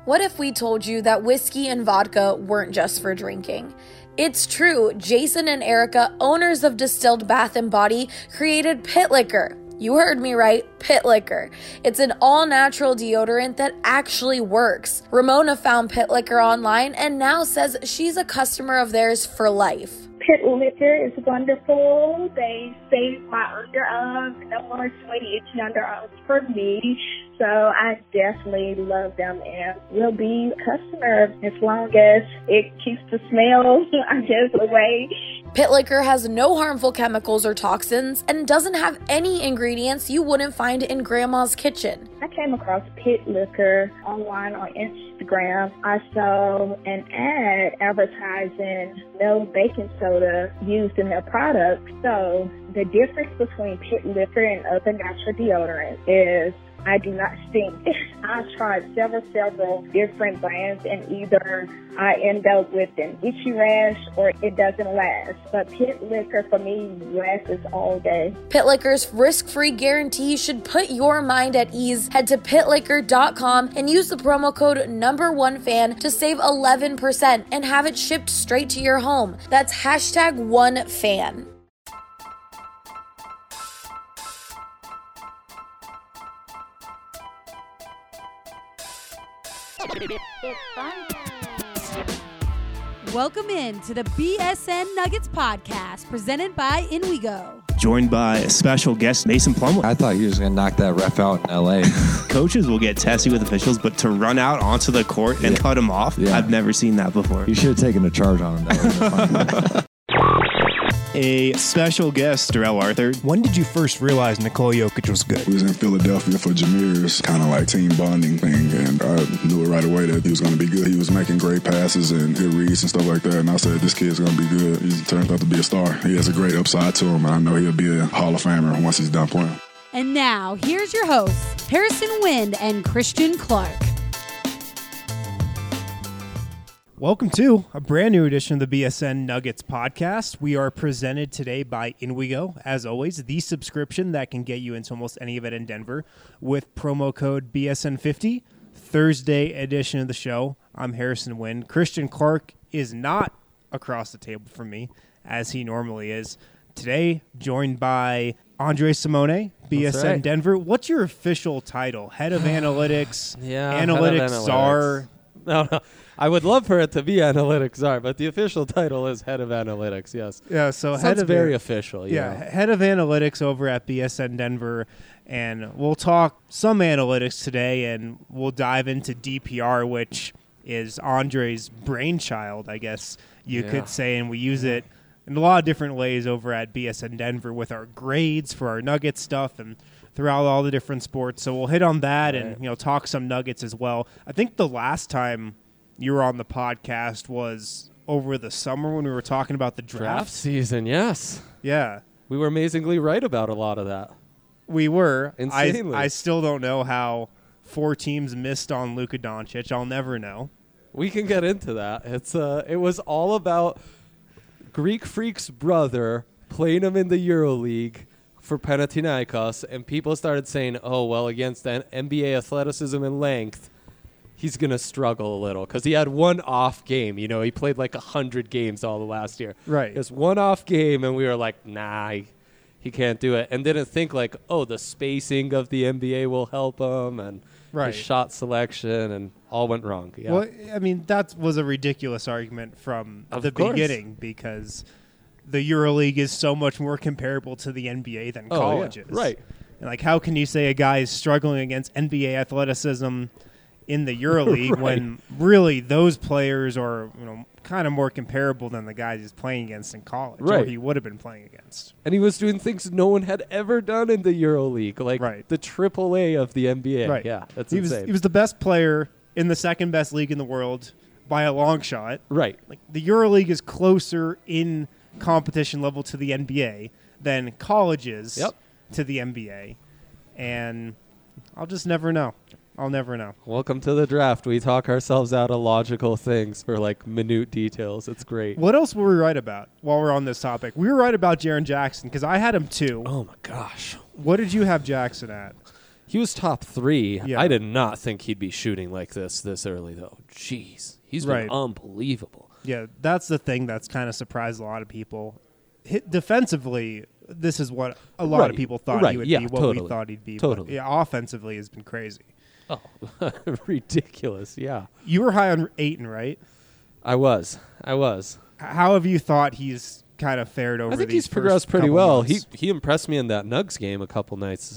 What if we told you that whiskey and vodka weren't just for drinking? It's true. Jason and Erica, owners of Distilled Bath & Body, created Pit Liquor. You heard me right, Pit Liquor. It's an all-natural deodorant that actually works. Ramona found Pit Liquor online and now says she's a customer of theirs for life. Pit Liquor is wonderful. They save my underarms. No more sweaty, itchy underarms for me. So I definitely love them and will be a customer as long as it keeps the smell, I guess, away. Pit Liquor has no harmful chemicals or toxins and doesn't have any ingredients you wouldn't find in Grandma's kitchen. I came across Pit Liquor online on Instagram. I saw an ad advertising no baking soda used in their product. So the difference between Pit Liquor and other natural deodorants is I do not stink. I've tried several different brands and either I end up with an itchy rash or it doesn't last. But Pit Liquor for me lasts all day. Pit Liquor's risk-free guarantee should put your mind at ease. Head to pitliquor.com and use the promo code #OneFan to save 11% and have it shipped straight to your home. That's #OneFan. It's fun time. Welcome in to the BSN Nuggets podcast presented by In We Go. Joined by a special guest, Mason Plumlee. I thought he was going to knock that ref out in L.A. Coaches will get testy with officials, but to run out onto the court and cut him off, I've never seen that before. You should have taken a charge on him. That would have been fun. A special guest, Darrell Arthur. When did you first realize Nikola Jokic was good? We was in Philadelphia for Jameer's kind of like team bonding thing, and I knew it right away that he was going to be good. He was making great passes and good reads and stuff like that, and I said, this kid's going to be good. He turns out to be a star. He has a great upside to him, and I know he'll be a Hall of Famer once he's done playing. And now, here's your hosts, Harrison Wind and Christian Clark. Welcome to a brand new edition of the BSN Nuggets podcast. We are presented today by In We Go, as always, the subscription that can get you into almost any event in Denver with promo code BSN50. Thursday edition of the show. I'm Harrison Wind. Christian Clark is not across the table from me, as he normally is. Today, joined by Andre Simone, BSN right. Denver. What's your official title? Head of Analytics? Yeah, Analytics czar? No. I would love for it to be Analytics czar, but the official title is Head of Analytics, yes. Yeah, so Sounds head of very official. Yeah, Head of Analytics over at BSN Denver. And we'll talk some analytics today, and we'll dive into DPR, which is Andre's brainchild, I guess you could say. And we use it in a lot of different ways over at BSN Denver with our grades for our Nuggets stuff and throughout all the different sports. So we'll hit on that and talk some Nuggets as well. I think the last time you were on the podcast was over the summer when we were talking about the Draft season, yes. Yeah. We were amazingly right about a lot of that. We were. Insanely. I still don't know how 4 teams missed on Luka Doncic. I'll never know. We can get into that. It was all about Greek Freak's brother playing him in the EuroLeague for Panathinaikos, and people started saying, oh, well, against NBA athleticism and length, he's going to struggle a little because he had one off game. You know, he played like 100 games all the last year. Right. Just one off game, and we were like, nah, he can't do it. And didn't think like, oh, the spacing of the NBA will help him and his shot selection, and all went wrong. Yeah. Well, I mean, that was a ridiculous argument from the beginning because the EuroLeague is so much more comparable to the NBA than college is. Right. And like, how can you say a guy is struggling against NBA athleticism in the EuroLeague when really those players are, kind of more comparable than the guys he's playing against in college, or he would have been playing against. And he was doing things no one had ever done in the EuroLeague, like the AAA of the NBA. Right. Yeah, that's insane. He was the best player in the second best league in the world by a long shot. Right. Like the EuroLeague is closer in competition level to the NBA than college is to the NBA, and I'll just never know. I'll never know. Welcome to the draft. We talk ourselves out of logical things for like minute details. It's great. What else were we right about while we're on this topic? We were right about Jaren Jackson because I had him too. Oh my gosh. What did you have Jackson at? He was top 3. Yeah. I did not think he'd be shooting like this early, though. Jeez. He's been unbelievable. Yeah, that's the thing that's kind of surprised a lot of people. Defensively, this is what a lot of people thought he would be, what we thought he'd be. Totally. But, yeah, offensively has been crazy. Oh, ridiculous, yeah. You were high on Ayton, right? I was. How have you thought he's kind of fared over I think these he's progressed first pretty couple well. months? He impressed me in that Nugs game a couple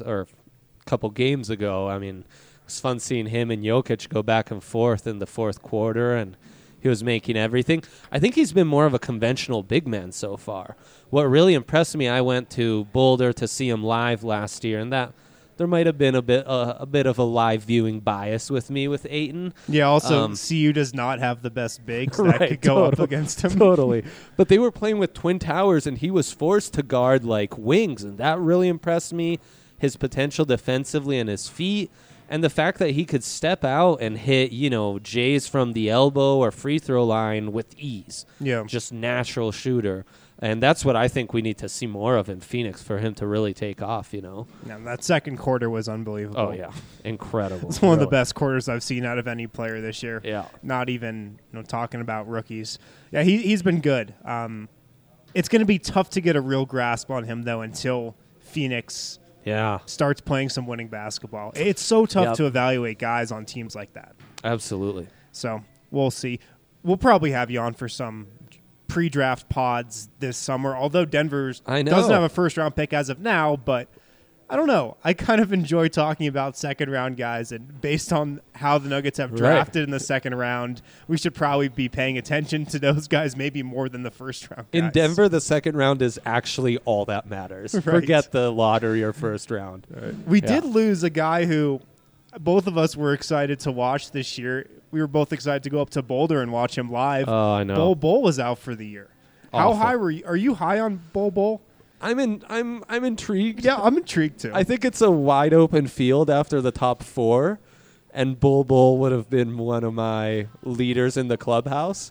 games ago. I mean, it was fun seeing him and Jokic go back and forth in the fourth quarter, and he was making everything. I think he's been more of a conventional big man so far. What really impressed me, I went to Boulder to see him live last year, and that there might have been a bit of a live viewing bias with me with Ayton. Yeah, also, CU does not have the best bigs that could go up against him. Totally. But they were playing with Twin Towers, and he was forced to guard like wings, and that really impressed me. His potential defensively and his feet, and the fact that he could step out and hit, Jays from the elbow or free throw line with ease. Yeah. Just natural shooter. And that's what I think we need to see more of in Phoenix for him to really take off, Yeah, that second quarter was unbelievable. Oh, yeah. Incredible. It's one of the best quarters I've seen out of any player this year. Yeah. Not even talking about rookies. Yeah, he's been good. It's going to be tough to get a real grasp on him, though, until Phoenix starts playing some winning basketball. It's so tough to evaluate guys on teams like that. Absolutely. So we'll see. We'll probably have you on for some pre-draft pods this summer, although Denver doesn't have a first-round pick as of now, but I don't know. I kind of enjoy talking about second-round guys, and based on how the Nuggets have drafted in the second round, we should probably be paying attention to those guys maybe more than the first-round guys. In Denver, the second round is actually all that matters. Right. Forget the lottery or first round. We did lose a guy who both of us were excited to watch this year. We were both excited to go up to Boulder and watch him live. Oh, I know. Bol was out for the year. How high were you? Are you high on Bol? I'm intrigued. Yeah, I'm intrigued too. I think it's a wide open field after the top 4, and Bol would have been one of my leaders in the clubhouse.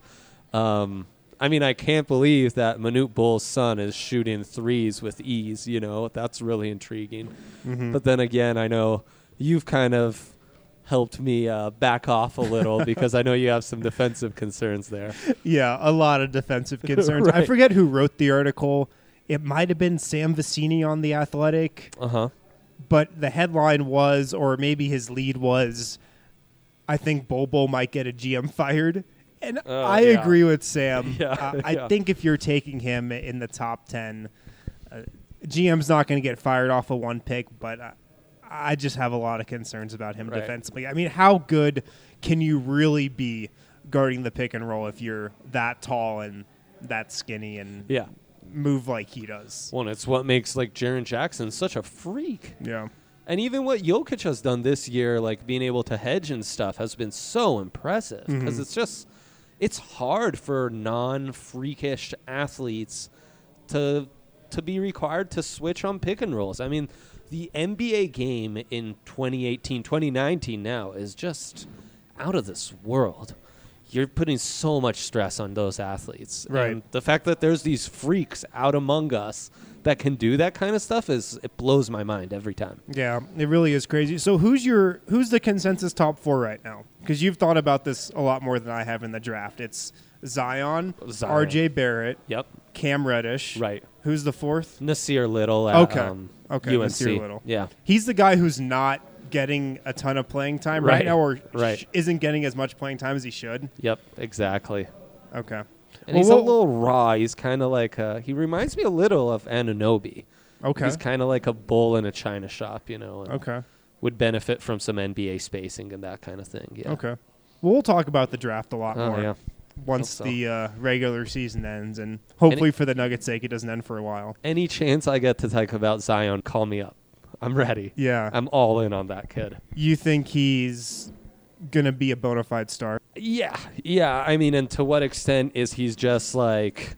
I can't believe that Manute Bol's son is shooting threes with ease. That's really intriguing. Mm-hmm. But then again, I know you've kind of helped me back off a little because I know you have some defensive concerns there. Yeah, a lot of defensive concerns. Right. I forget who wrote the article. It might have been Sam Vecini on The Athletic. Uh-huh. But the headline was, or maybe his lead was, I think Bol might get a GM fired. And I agree with Sam. I think if you're taking him in the top 10, GM's not going to get fired off of one pick, but I just have a lot of concerns about him defensively. I mean, how good can you really be guarding the pick and roll if you're that tall and that skinny and move like he does? Well, it's what makes Jaren Jackson such a freak. Yeah. And even what Jokic has done this year, being able to hedge and stuff, has been so impressive because it's hard for non-freakish athletes to be required to switch on pick and rolls. I mean, the NBA game in 2018, 2019 now is just out of this world. You're putting so much stress on those athletes. Right. And the fact that there's these freaks out among us that can do that kind of stuff it blows my mind every time. Yeah, it really is crazy. So who's the consensus top 4 right now? Because you've thought about this a lot more than I have in the draft. It's Zion. RJ Barrett. Yep. Cam Reddish. Right. Who's the fourth? Nasir Little at Okay, UNC. Nasir Little. Yeah. He's the guy who's not getting a ton of playing time right now, or isn't getting as much playing time as he should. Yep, exactly. Okay. And he's a little raw. He's kind of like he reminds me a little of Anunoby. Okay. He's kind of like a bull in a china shop, and okay. would benefit from some NBA spacing and that kind of thing. Yeah. Okay. Well, we'll talk about the draft a lot more. Yeah. Once the regular season ends, and hopefully for the Nuggets' sake, it doesn't end for a while. Any chance I get to talk about Zion, call me up. I'm ready. Yeah. I'm all in on that kid. You think he's going to be a bona fide star? Yeah. I mean, and to what extent is he's just 6'9",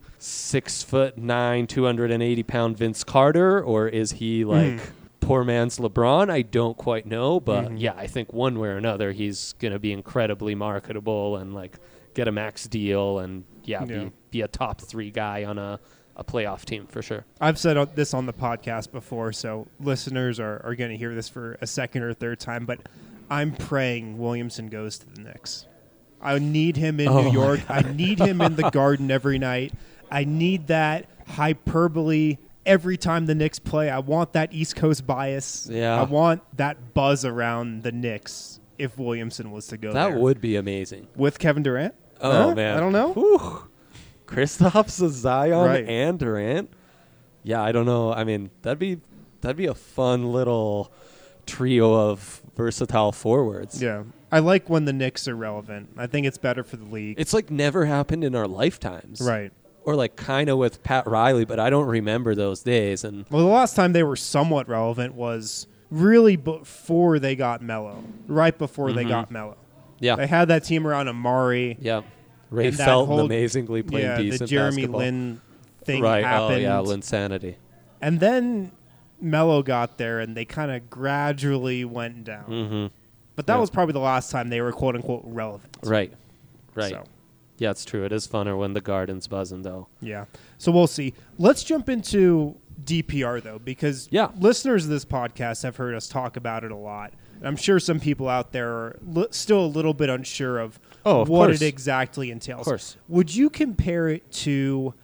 280-pound Vince Carter, or is he poor man's LeBron? I don't quite know, but I think one way or another he's going to be incredibly marketable and get a max deal and be a top 3 guy on a a playoff team for sure. I've said this on the podcast before, so listeners are going to hear this for a second or third time, but I'm praying Williamson goes to the Knicks. I need him in New York. I need him in the Garden every night. I need that hyperbole every time the Knicks play. I want that East Coast bias. Yeah. I want that buzz around the Knicks if Williamson was to go there. That would be amazing. With Kevin Durant? Oh, man. I don't know. Whew. Kristaps, Zion, Right. and Durant. Yeah, I don't know. I mean, that'd be a fun little trio of versatile forwards. Yeah. I like when the Knicks are relevant. I think it's better for the league. It's like never happened in our lifetimes. Right. Or like kind of with Pat Riley, but I don't remember those days. And Well, the last time they were somewhat relevant was really before they got Melo. Right before they got Melo. yeah, They had that team around Amari. yeah. Ray And that Felton whole- amazingly playing Yeah, decent the Jeremy basketball. Lin thing right. happened. Oh, yeah, Linsanity. And then Melo got there, and they kind of gradually went down. Mm-hmm. But that Yeah. was probably the last time they were "quote-unquote" relevant. Right. So, Yeah, it's true. It is funner when the Garden's buzzing, though. yeah. So we'll see. Let's jump into DPR, though, because Yeah. listeners of this podcast have heard us talk about it a lot. And I'm sure some people out there are still a little bit unsure of Of what course. it exactly entails. Of course. Would you compare it to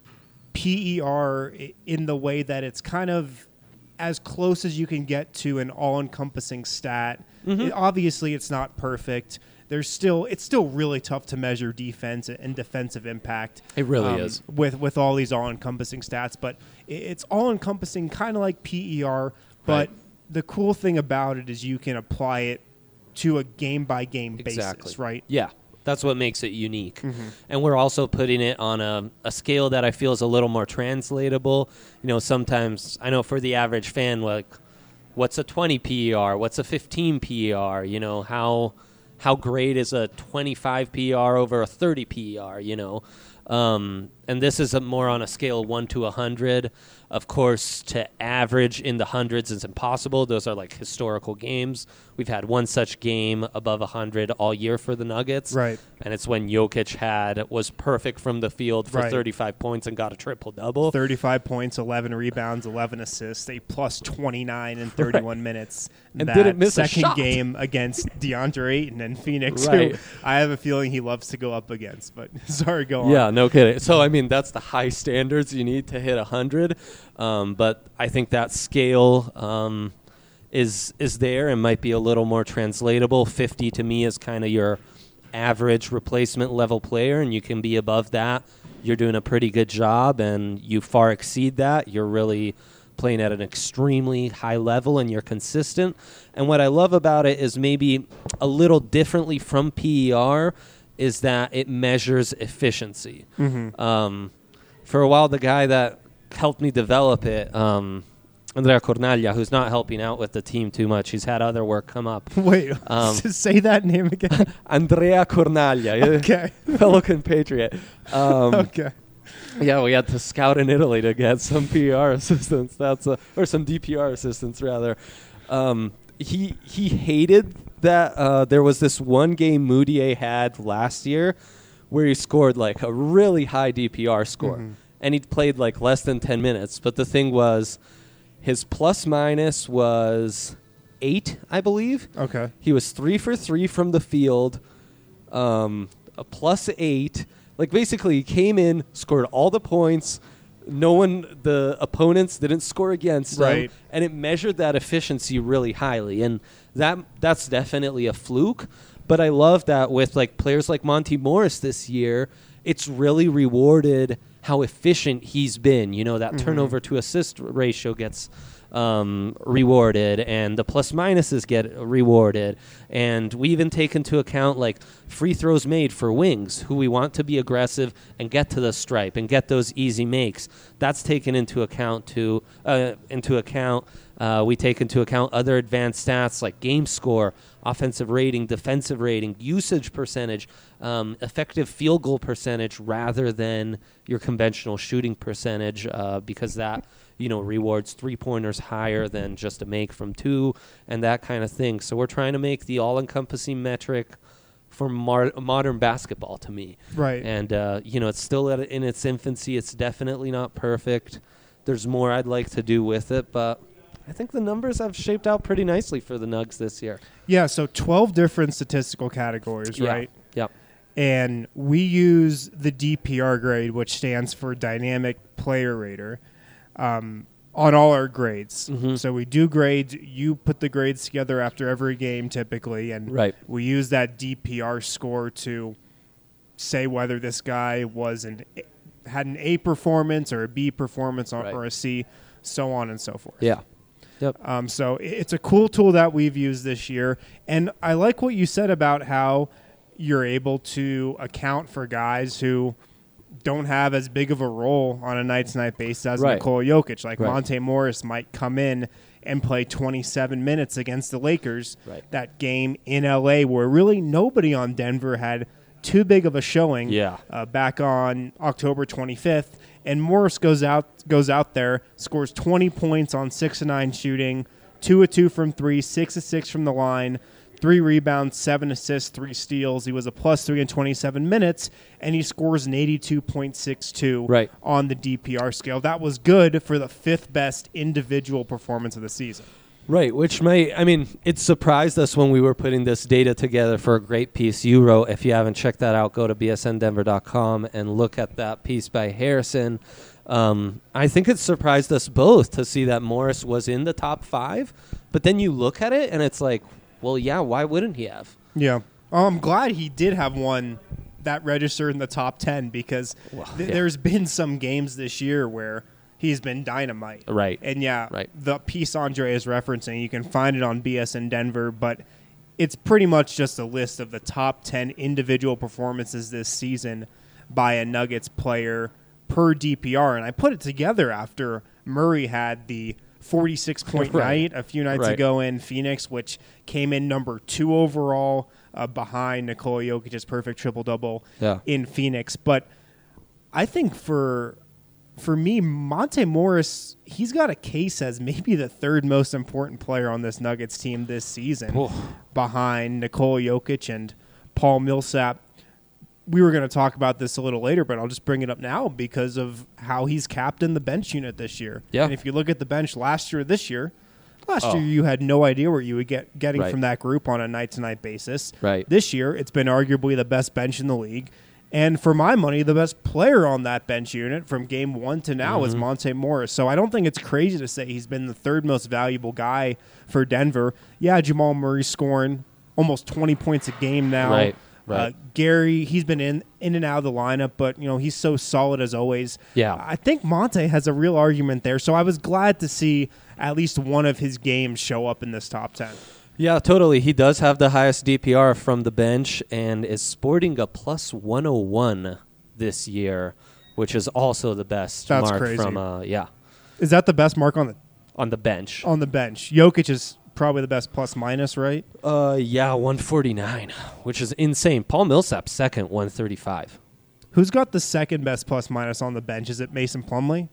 PER in the way that it's kind of as close as you can get to an all-encompassing stat? Obviously, it's not perfect. It's still really tough to measure defense and defensive impact. It really is. with all these all-encompassing stats, but it's all-encompassing, kind of like PER. But Right. the cool thing about it is you can apply it to a game-by-game Exactly. basis, right? Yeah, that's what makes it unique. And we're also putting it on a scale that I feel is a little more translatable. You know, sometimes, I know for the average fan, like, what's a 20 PER? What's a 15 PER? You know, how great is a 25 PER over a 30 PER, you know? And this is more on a scale of 1 to 100. Of course, to average in the hundreds is impossible. Those are like historical games. We've had one such game above 100 all year for the Nuggets. Right. And it's when Jokic was perfect from the field for Right. 35 points and got a triple-double. 35 points, 11 rebounds, 11 assists, a plus 29 in 31 minutes. And that didn't miss a second shot. game against DeAndre Ayton and Phoenix, Right. who I have a feeling he loves to go up against. But sorry, go on. Yeah, no kidding. So, I mean, that's the high standards you need to hit 100. But I think that scale is there and might be a little more translatable. 50 to me is kind of your average replacement level player, and you can be above that. You're doing a pretty good job, and you far exceed that. You're really playing at an extremely high level, and you're consistent. And what I love about it is maybe a little differently from PER is that it measures efficiency. For a while, the guy that helped me develop it, Andrea Cornaglia, who's not helping out with the team too much. He's had other work come up. Wait, say that name again. Andrea Cornaglia, Okay. fellow compatriot. Okay. Yeah, we had to scout in Italy to get some PR assistants. Or some DPR assistants rather. He hated that there was this one game Moutier had last year where he scored like a really high DPR score, and he played like less than 10 minutes. But the thing was, his plus minus was 8, I believe. Okay. He was 3 for 3 from the field, a plus 8. Like basically, he came in, scored all the points. The opponents didn't score against him, Right. and it measured that efficiency really highly. And that's definitely a fluke. But I love that with like players like Monty Morris this year, it's really rewarded how efficient he's been. You know, that turnover to assist ratio gets rewarded, and the plus minuses get rewarded. And we even take into account like free throws made for wings who we want to be aggressive and get to the stripe and get those easy makes. That's taken into account we take into account other advanced stats like game score, offensive rating, defensive rating, usage percentage, effective field goal percentage rather than your conventional shooting percentage, because that rewards three-pointers higher than just a make from 2 and that kind of thing. So we're trying to make the all-encompassing metric for modern basketball to me. Right. And, it's still in its infancy. It's definitely not perfect. There's more I'd like to do with it, but I think the numbers have shaped out pretty nicely for the Nugs this year. Yeah, so 12 different statistical categories, right? Yep. And we use the DPR grade, which stands for Dynamic Player Rater, on all our grades. Mm-hmm. So we do grades. You put the grades together after every game typically, and we use that DPR score to say whether this guy had an A performance or a B performance or a C, so on and so forth. Yeah. Yep. So it's a cool tool that we've used this year. And I like what you said about how you're able to account for guys who don't have as big of a role on a night-to-night basis as Nikola Jokic. Like Monte Morris might come in and play 27 minutes against the Lakers. That game in L.A. where really nobody on Denver had too big of a showing back on October 25th. And Morris goes out there, scores 20 points on 6 of 9 shooting, 2 of 2 from 3, 6 of 6 from the line, 3 rebounds, 7 assists, 3 steals. He was a +3 in 27 minutes, and he scores an 82.62 on the DPR scale. That was good for the 5th best individual performance of the season. Right, it surprised us when we were putting this data together for a great piece you wrote. If you haven't checked that out, go to bsndenver.com and look at that piece by Harrison. I think it surprised us both to see that Morris was in the top 5, but then you look at it and it's like, well, yeah, why wouldn't he have? Yeah. I'm glad he did have one that registered in the top 10 because there's been some games this year where he's been dynamite. Right. And the piece Andre is referencing, you can find it on BSN Denver, but it's pretty much just a list of the top 10 individual performances this season by a Nuggets player per DPR. And I put it together after Murray had the 46-point night a few nights ago in Phoenix, which came in number 2 overall behind Nikola Jokic's perfect triple-double in Phoenix. But I think for me, Monte Morris, he's got a case as maybe the 3rd most important player on this Nuggets team this season behind Nikola Jokic and Paul Millsap. We were going to talk about this a little later, but I'll just bring it up now because of how he's captained the bench unit this year. Yeah. And if you look at the bench last year you had no idea where you would getting from that group on a night-to-night basis. Right. This year, it's been arguably the best bench in the league. And for my money, the best player on that bench unit from game 1 to now is Monte Morris. So I don't think it's crazy to say he's been the 3rd most valuable guy for Denver. Yeah, Jamal Murray's scoring almost 20 points a game now. Right. Gary, he's been in and out of the lineup, but he's so solid as always. Yeah. I think Monte has a real argument there. So I was glad to see at least one of his games show up in this top 10. Yeah, totally. He does have the highest DPR from the bench and is sporting a +101 this year, which is also the best mark crazy. From Is that the best mark on the bench? On the bench. Jokic is probably the best +- right? 149, which is insane. Paul Millsap second, 135. Who's got the 2nd best +- on the bench? Is it Mason Plumlee?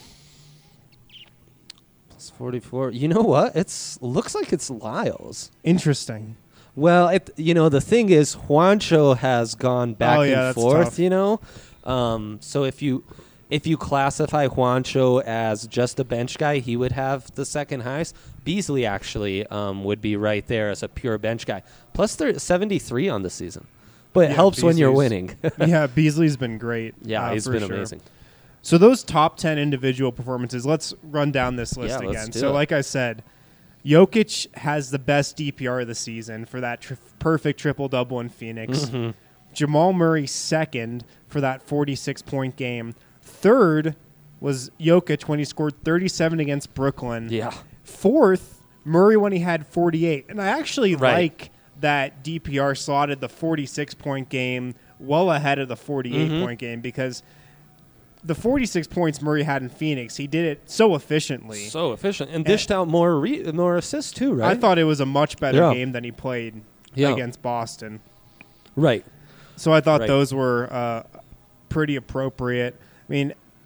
44. You know what? Looks like it's Lyles. Interesting. Well, the thing is, Juancho has gone back and forth. So if you classify Juancho as just a bench guy, he would have the 2nd highest. Beasley actually would be right there as a pure bench guy. Plus 73 on the season, but it helps when you're winning. Yeah, Beasley's been great. Yeah, he's been amazing. So those top 10 individual performances, let's run down this list again. So like I said, Jokic has the best DPR of the season for that perfect triple-double in Phoenix. Mm-hmm. Jamal Murray 2nd for that 46-point game. 3rd was Jokic when he scored 37 against Brooklyn. Yeah. 4th, Murray when he had 48. And I actually like that DPR slotted the 46-point game well ahead of the 48-point game because – the 46 points Murray had in Phoenix, he did it so efficiently. And dished out more assists too, right? I thought it was a much better game than he played against Boston. Right. So I thought those were pretty appropriate. I mean,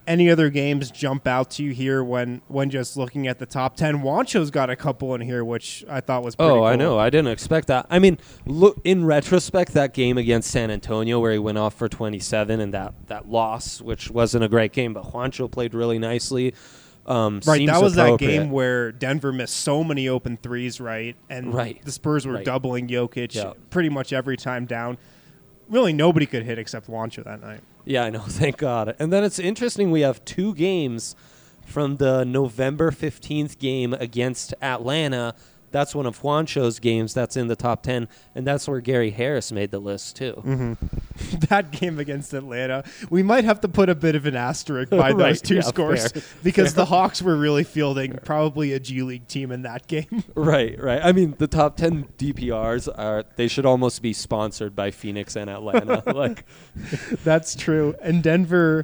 Any other games jump out to you here when just looking at the top 10? Juancho's got a couple in here, which I thought was pretty cool. I know. I didn't expect that. I mean, look, in retrospect, that game against San Antonio where he went off for 27 and that loss, which wasn't a great game, but Juancho played really nicely. Right, that was that game where Denver missed so many open threes, right? And the Spurs were doubling Jokic pretty much every time down. Really, nobody could hit except Juancho that night. Yeah, I know. Thank God. And then it's interesting. We have 2 games from the November 15th game against Atlanta. That's one of Juancho's games that's in the top 10, and that's where Gary Harris made the list, too. Mm-hmm. That game against Atlanta, we might have to put a bit of an asterisk by those 2 scores because the Hawks were really fielding probably a G League team in that game. Right. I mean, the top 10 DPRs, they should almost be sponsored by Phoenix and Atlanta. That's true. And Denver,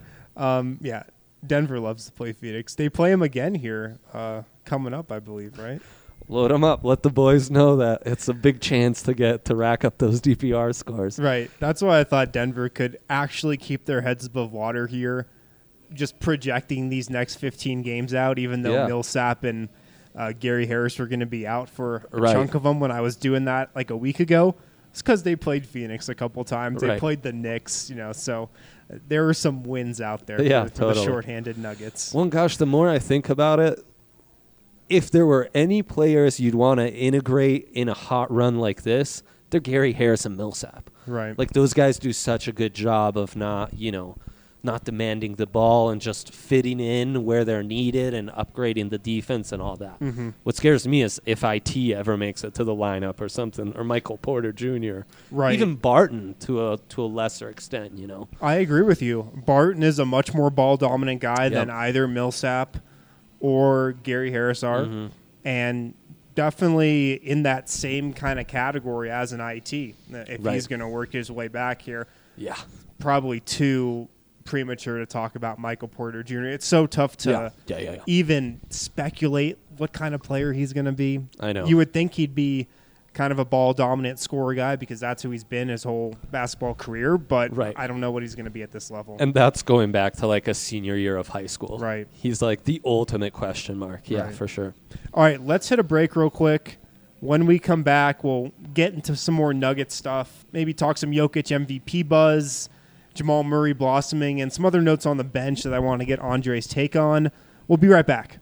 Denver loves to play Phoenix. They play them again here coming up, I believe, right? Load them up. Let the boys know that it's a big chance to rack up those DPR scores. Right. That's why I thought Denver could actually keep their heads above water here, just projecting these next 15 games out, even though Millsap and Gary Harris were going to be out for a chunk of them when I was doing that like a week ago. It's because they played Phoenix a couple times. They played the Knicks, so there were some wins out there for the shorthanded Nuggets. Well, gosh, the more I think about it, if there were any players you'd want to integrate in a hot run like this, they're Gary Harris and Millsap. Right. Like those guys do such a good job of not demanding the ball and just fitting in where they're needed and upgrading the defense and all that. Mm-hmm. What scares me is if IT ever makes it to the lineup or something, or Michael Porter Jr. Right. Even Barton to a lesser extent, I agree with you. Barton is a much more ball dominant guy than either Millsap or Gary Harris are, and definitely in that same kind of category as an IT. If he's going to work his way back here, probably too premature to talk about Michael Porter Jr. It's so tough to even speculate what kind of player he's going to be. I know. You would think he'd be kind of a ball-dominant scorer guy because that's who he's been his whole basketball career, but I don't know what he's going to be at this level. And that's going back to like a senior year of high school. Right. He's like the ultimate question mark. Yeah, for sure. All right, let's hit a break real quick. When we come back, we'll get into some more Nugget stuff, maybe talk some Jokic MVP buzz, Jamal Murray blossoming, and some other notes on the bench that I want to get Andre's take on. We'll be right back.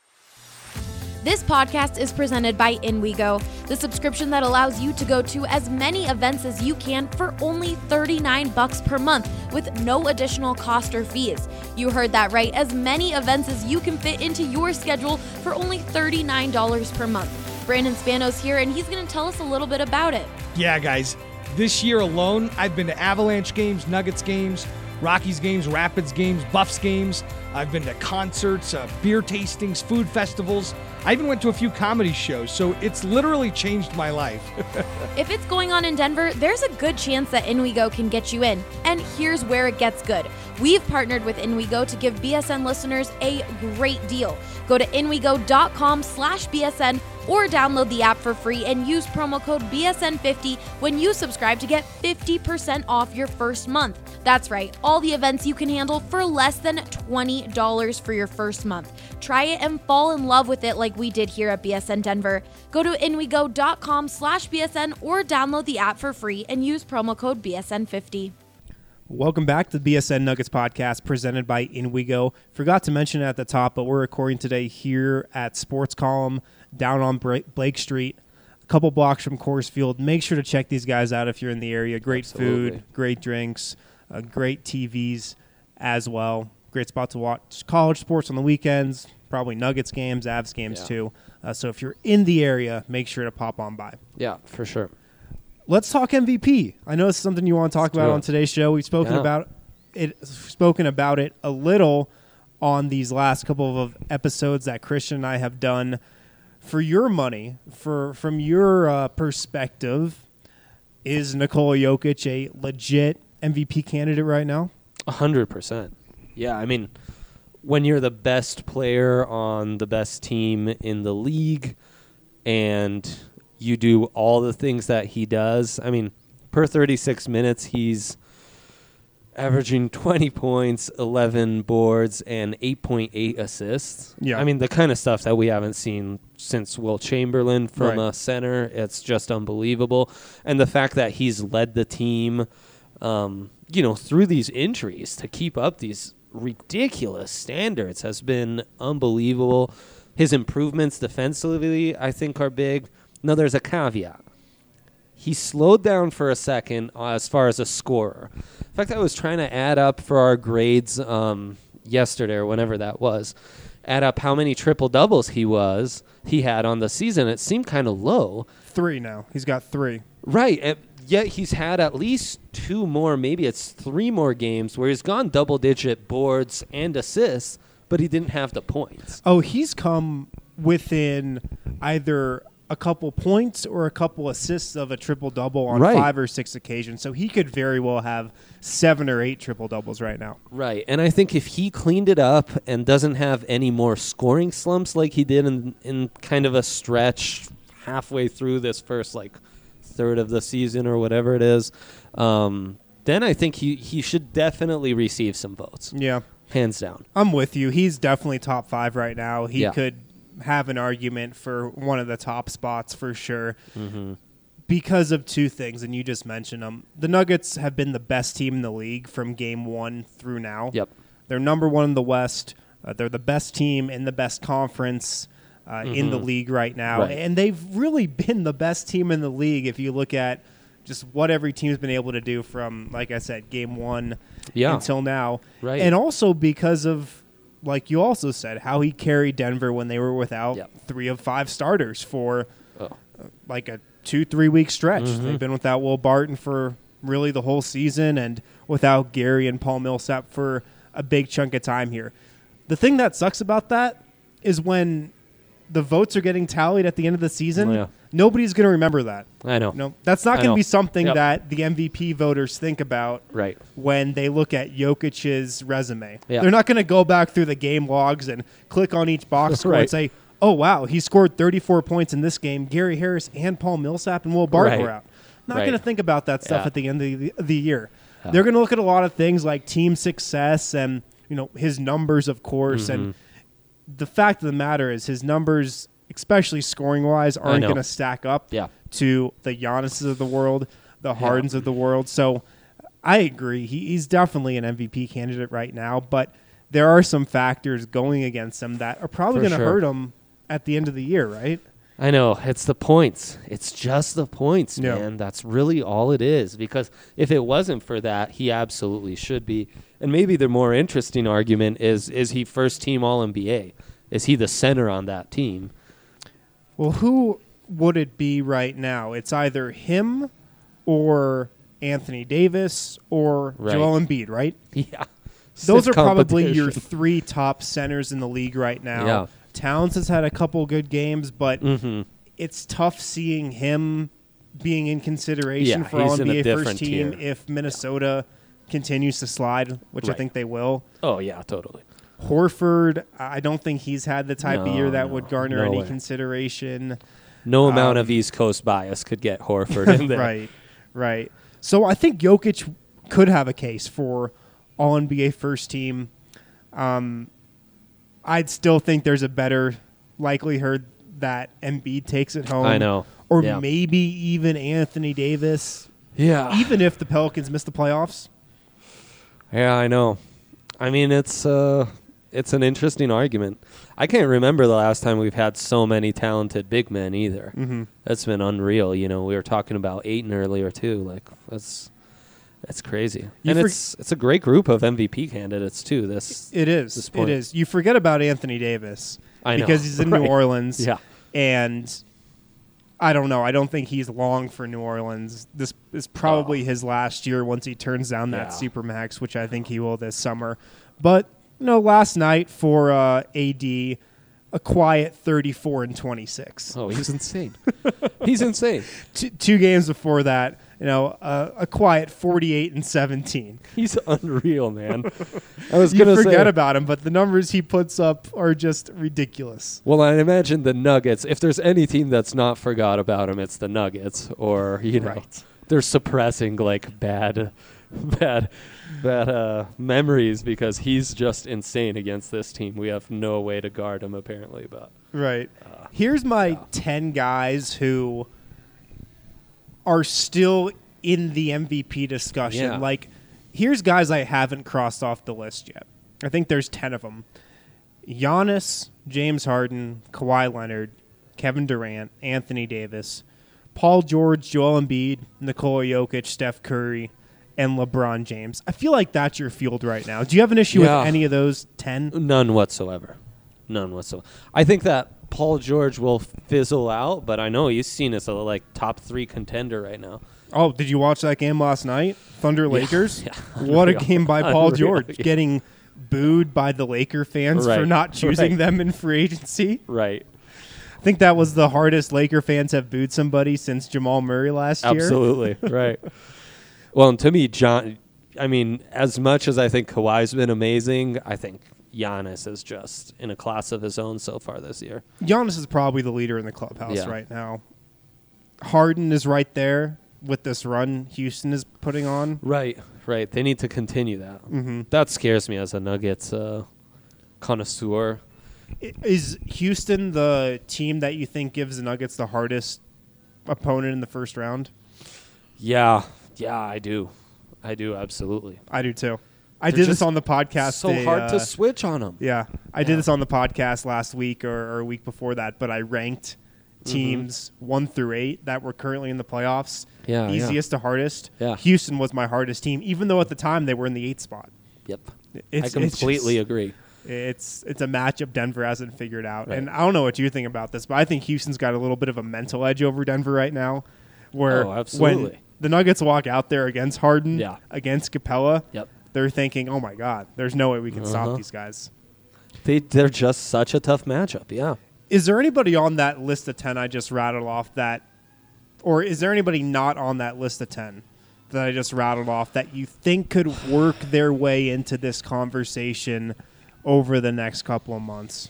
This podcast is presented by InWeGo, the subscription that allows you to go to as many events as you can for only $39 per month with no additional cost or fees. You heard that right, as many events as you can fit into your schedule for only $39 per month. Brandon Spanos here, and he's going to tell us a little bit about it. Yeah, guys. This year alone, I've been to Avalanche games, Nuggets games, Rockies games, Rapids games, Buffs games. I've been to concerts, beer tastings, food festivals. I even went to a few comedy shows, so it's literally changed my life. If it's going on in Denver, there's a good chance that InWeGo can get you in. And here's where it gets good. We've partnered with InWeGo to give BSN listeners a great deal. Go to inwego.com/BSN or download the app for free and use promo code BSN50 when you subscribe to get 50% off your first month. That's right, all the events you can handle for less than $20 for your first month. Try it and fall in love with it like we did here at BSN Denver. Go to inwego.com/BSN or download the app for free and use promo code BSN50. Welcome back to the BSN Nuggets podcast presented by InWeGo. Forgot to mention it at the top, but we're recording today here at Sports Column down on Blake Street, a couple blocks from Coors Field. Make sure to check these guys out if you're in the area. Great food, great drinks, great TVs as well. Great spot to watch college sports on the weekends, probably Nuggets games, Avs games too. So if you're in the area, make sure to pop on by. Yeah, for sure. Let's talk MVP. I know it's something you want to talk about on today's show. We've spoken about it a little on these last couple of episodes that Christian and I have done. For your money, from your perspective, is Nikola Jokic a legit MVP candidate right now? 100%. Yeah, I mean, when you're the best player on the best team in the league and you do all the things that he does, I mean, per 36 minutes, he's averaging 20 points, 11 boards, and 8.8 assists. Yeah. I mean, the kind of stuff that we haven't seen since Will Chamberlain from Right. a center. It's just unbelievable. And the fact that he's led the team, through these injuries to keep up these ridiculous standards has been unbelievable. His improvements defensively, I think, are big. Now, there's a caveat. He slowed down for a second as far as a scorer. In fact, I was trying to add up for our grades yesterday or whenever that was, add up how many triple-doubles he had on the season. It seemed kind of low. 3 now. He's got 3. Right. Yet he's had at least 2 more, maybe it's 3 more games where he's gone double-digit boards and assists, but he didn't have the points. Oh, he's come within either a couple points or a couple assists of a triple-double on Right. 5 or 6 occasions. So he could very well have 7 or 8 triple-doubles right now. Right. And I think if he cleaned it up and doesn't have any more scoring slumps like he did in kind of a stretch halfway through this first, third of the season or whatever it is, then I think he should definitely receive some votes. Yeah. Hands down. I'm with you. He's definitely top 5 right now. He Yeah. could have an argument for one of the top spots for sure Mm-hmm. because of 2 things, and you just mentioned them. The Nuggets have been the best team in the league from game 1 through now. Yep. They're number 1 in the West. They're the best team in the best conference in the league right now. Right. And they've really been the best team in the league if you look at just what every team's been able to do from, like I said, game 1 until now. Right. And also because of, like you also said, how he carried Denver when they were without 3 of 5 starters for like a 2-3 week stretch. They've been without Will Barton for really the whole season and without Gary and Paul Millsap for a big chunk of time here. The thing that sucks about that is when the votes are getting tallied at the end of the season, nobody's going to remember that. I know. No, that's not going to be something Yep. that the MVP voters think about Right. when they look at Jokic's resume. Yeah. They're not going to go back through the game logs and click on each box score and Right. say, oh, wow, he scored 34 points in this game. Gary Harris and Paul Millsap and Will Barton Right. were out. Not Right. going to think about that stuff Yeah. at the end of the year. Yeah. They're going to look at a lot of things like team success and his numbers, of course. And the fact of the matter is his numbers, especially scoring-wise, aren't know. going to stack up Yeah. to the Giannis's of the world, the Hardens of the world. So I agree. He's definitely an MVP candidate right now, but there are some factors going against him that are probably For going to sure. hurt him at the end of the year, right? I know. It's the points. It's just the points, Yeah. man. That's really all it is. Because if it wasn't for that, he absolutely should be. And maybe the more interesting argument is he first team All-NBA? Is he the center on that team? Well, who would it be right now? It's either him or Anthony Davis or Right. Joel Embiid, right? Yeah. Those Stiff are probably your competition. 3 top centers in the league right now. Yeah. Towns has had a couple good games, but it's tough seeing him being in consideration Yeah, for he's in a All-NBA different first team tier. if Minnesota continues to slide, which I Right. think they will. Oh, yeah, totally. Horford, I don't think he's had the type of year that No, would garner no any way. consideration. No amount of East Coast bias could get Horford in there. Right. So I think Jokic could have a case for All-NBA first team. I'd still think there's a better likelihood that Embiid takes it home. I know. Or Yeah. maybe even Anthony Davis, Yeah. even if the Pelicans miss the playoffs. Yeah, I know. I mean, it's an interesting argument. I can't remember the last time we've had so many talented big men either. Mm-hmm. That's been unreal. We were talking about Ayton earlier too. Like that's crazy. And it's a great group of MVP candidates too. It is. this point. It is. You forget about Anthony Davis I know. because he's in Right. New Orleans. Yeah. And I don't know. I don't think he's long for New Orleans. This is probably his last year once he turns down that Supermax, which I think he will this summer. But, last night for AD, a quiet 34-26. Oh, he's insane. He's insane. 2 games before that, a quiet 48-17. He's unreal, man. I was You going to say. forget about him, but the numbers he puts up are just ridiculous. Well, I imagine the Nuggets, if there's any team that's not forgot about him, it's the Nuggets. Or, Right. they're suppressing, bad bad memories because he's just insane against this team. We have no way to guard him apparently, but right. Here's my 10 guys who are still in the MVP discussion. Yeah. Like, here's guys I haven't crossed off the list yet. I think there's 10 of them. Giannis, James Harden, Kawhi Leonard, Kevin Durant, Anthony Davis, Paul George, Joel Embiid, Nikola Jokic, Steph Curry, and LeBron James. I feel like that's your field right now. Do you have an issue with any of those 10? None whatsoever. I think that Paul George will fizzle out, but I know he's seen as a top 3 contender right now. Oh, did you watch that game last night? Thunder Lakers? Yeah. What a game by Paul George. Yeah. Getting booed by the Laker fans for not choosing them in free agency. Right. I think that was the hardest Laker fans have booed somebody since Jamal Murray last year. Absolutely. Right. Well, and to me, as much as I think Kawhi's been amazing, I think Giannis is just in a class of his own so far this year. Giannis is probably the leader in the clubhouse right now. Harden is right there with this run Houston is putting on. Right. They need to continue that. Mm-hmm. That scares me as a Nuggets connoisseur. Is Houston the team that you think gives the Nuggets the hardest opponent in the first round? Yeah, I do. Absolutely. I do too. I did this on the podcast. So hard to switch on them. Yeah, I did this on the podcast last week or a week before that, but I ranked teams 1 through 8 that were currently in the playoffs. Yeah, easiest to hardest. Yeah. Houston was my hardest team, even though at the time they were in the 8th spot. Yep. I completely agree. It's a matchup Denver hasn't figured out. Right. And I don't know what you think about this, but I think Houston's got a little bit of a mental edge over Denver right now, where when the Nuggets walk out there against Harden, against Capella, they're thinking, oh, my God, there's no way we can stop these guys. They're just such a tough matchup, yeah. Is there anybody on that list of 10 I just rattled off or is there anybody not on that list of 10 that I just rattled off that you think could work their way into this conversation over the next couple of months?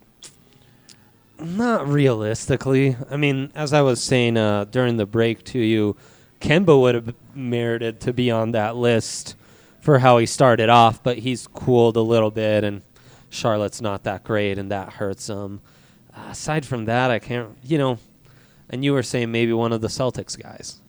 Not realistically. I mean, as I was saying during the break to you, Kemba would have merited to be on that list for how he started off, but he's cooled a little bit, and Charlotte's not that great, and that hurts him. Aside from that, I can't, and you were saying maybe one of the Celtics guys.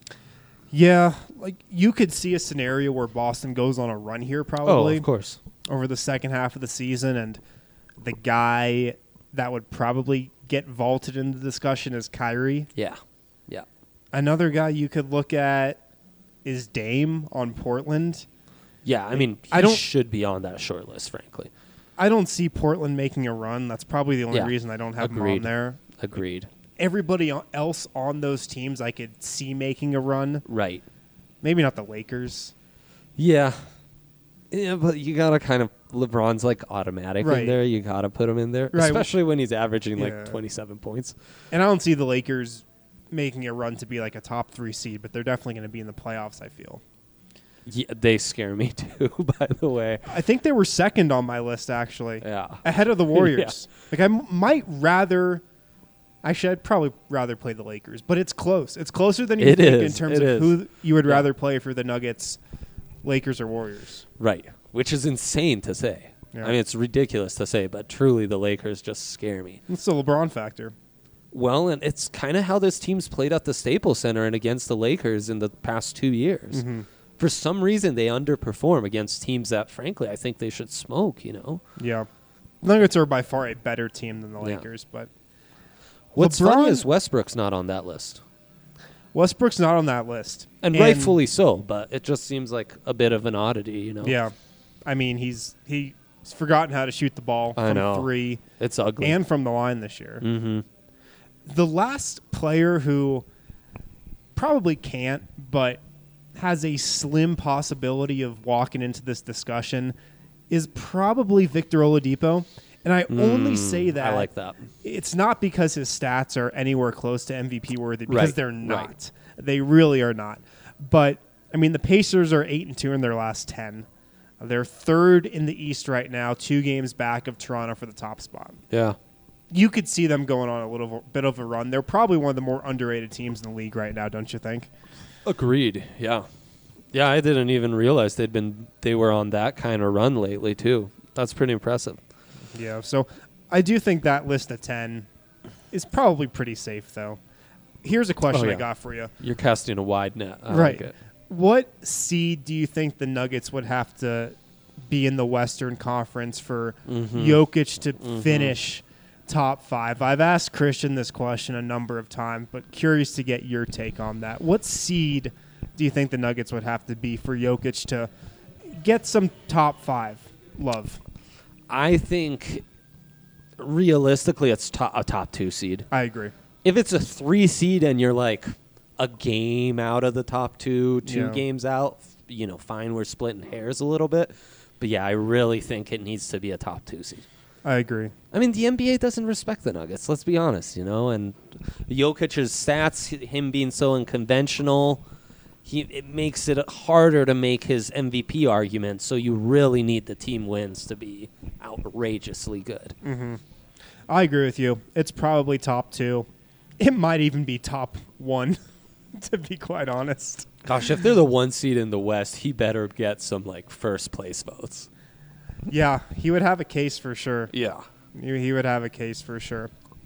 Yeah, you could see a scenario where Boston goes on a run here probably. Oh, of course. Over the second half of the season, and the guy that would probably get vaulted in the discussion is Kyrie. Yeah. Another guy you could look at is Dame on Portland. Yeah, I mean, he should be on that short list, frankly. I don't see Portland making a run. That's probably the only reason I don't have him on there. Agreed. Everybody else on those teams I could see making a run. Right. Maybe not the Lakers. Yeah. Yeah, but you got to kind of – LeBron's automatic in there. You got to put him in there, especially when he's averaging 27 points. And I don't see the Lakers making a run to be a top 3 seed, but they're definitely going to be in the playoffs, I feel. Yeah, they scare me too, by the way. I think they were second on my list, actually. Yeah. Ahead of the Warriors. I might rather... Actually, I'd probably rather play the Lakers, but it's close. It's closer than you think in terms of who you would rather play for the Nuggets, Lakers or Warriors. Right, which is insane to say. Yeah. I mean, it's ridiculous to say, but truly the Lakers just scare me. It's the LeBron factor. Well, and it's kind of how this team's played at the Staples Center and against the Lakers in the past 2 years. Mm-hmm. For some reason, they underperform against teams that, frankly, I think they should smoke, Yeah. Nuggets are by far a better team than the Lakers, but... What's funny is Westbrook's not on that list. Westbrook's not on that list. And rightfully so, but it just seems like a bit of an oddity, Yeah. I mean, he's forgotten how to shoot the ball from 3. It's ugly. And from the line this year. Mm-hmm. The last player who probably can't, but has a slim possibility of walking into this discussion is probably Victor Oladipo. And I only say that. I like that. It's not because his stats are anywhere close to MVP worthy, because they're not. Right. They really are not. But, I mean, the Pacers are 8-2 in their last 10. They're third in the East right now, 2 games back of Toronto for the top spot. Yeah. You could see them going on a little bit of a run. They're probably one of the more underrated teams in the league right now, don't you think? Agreed, yeah. Yeah, I didn't even realize they were on that kind of run lately too. That's pretty impressive. Yeah, so I do think that list of 10 is probably pretty safe, though. Here's a question I got for you. You're casting a wide net. I right. like it. What seed do you think the Nuggets would have to be in the Western Conference for Jokic to finish top 5? I've asked Christian this question a number of times, but curious to get your take on that. What seed do you think the Nuggets would have to be for Jokic to get some top 5 love? I think realistically it's a top 2 seed. I agree. If it's a 3 seed and you're like a game out of the top 2 games out, fine, we're splitting hairs a little bit. But yeah, I really think it needs to be a top 2 seed. I agree. I mean, the NBA doesn't respect the Nuggets, let's be honest, and Jokic's stats, him being so unconventional, it makes it harder to make his MVP argument, so you really need the team wins to be outrageously good. Mm-hmm. I agree with you. It's probably top 2. It might even be top 1, to be quite honest. Gosh, if they're the 1 seed in the West, he better get some, first place votes. Yeah, he would have a case for sure. Yeah. He would have a case for sure.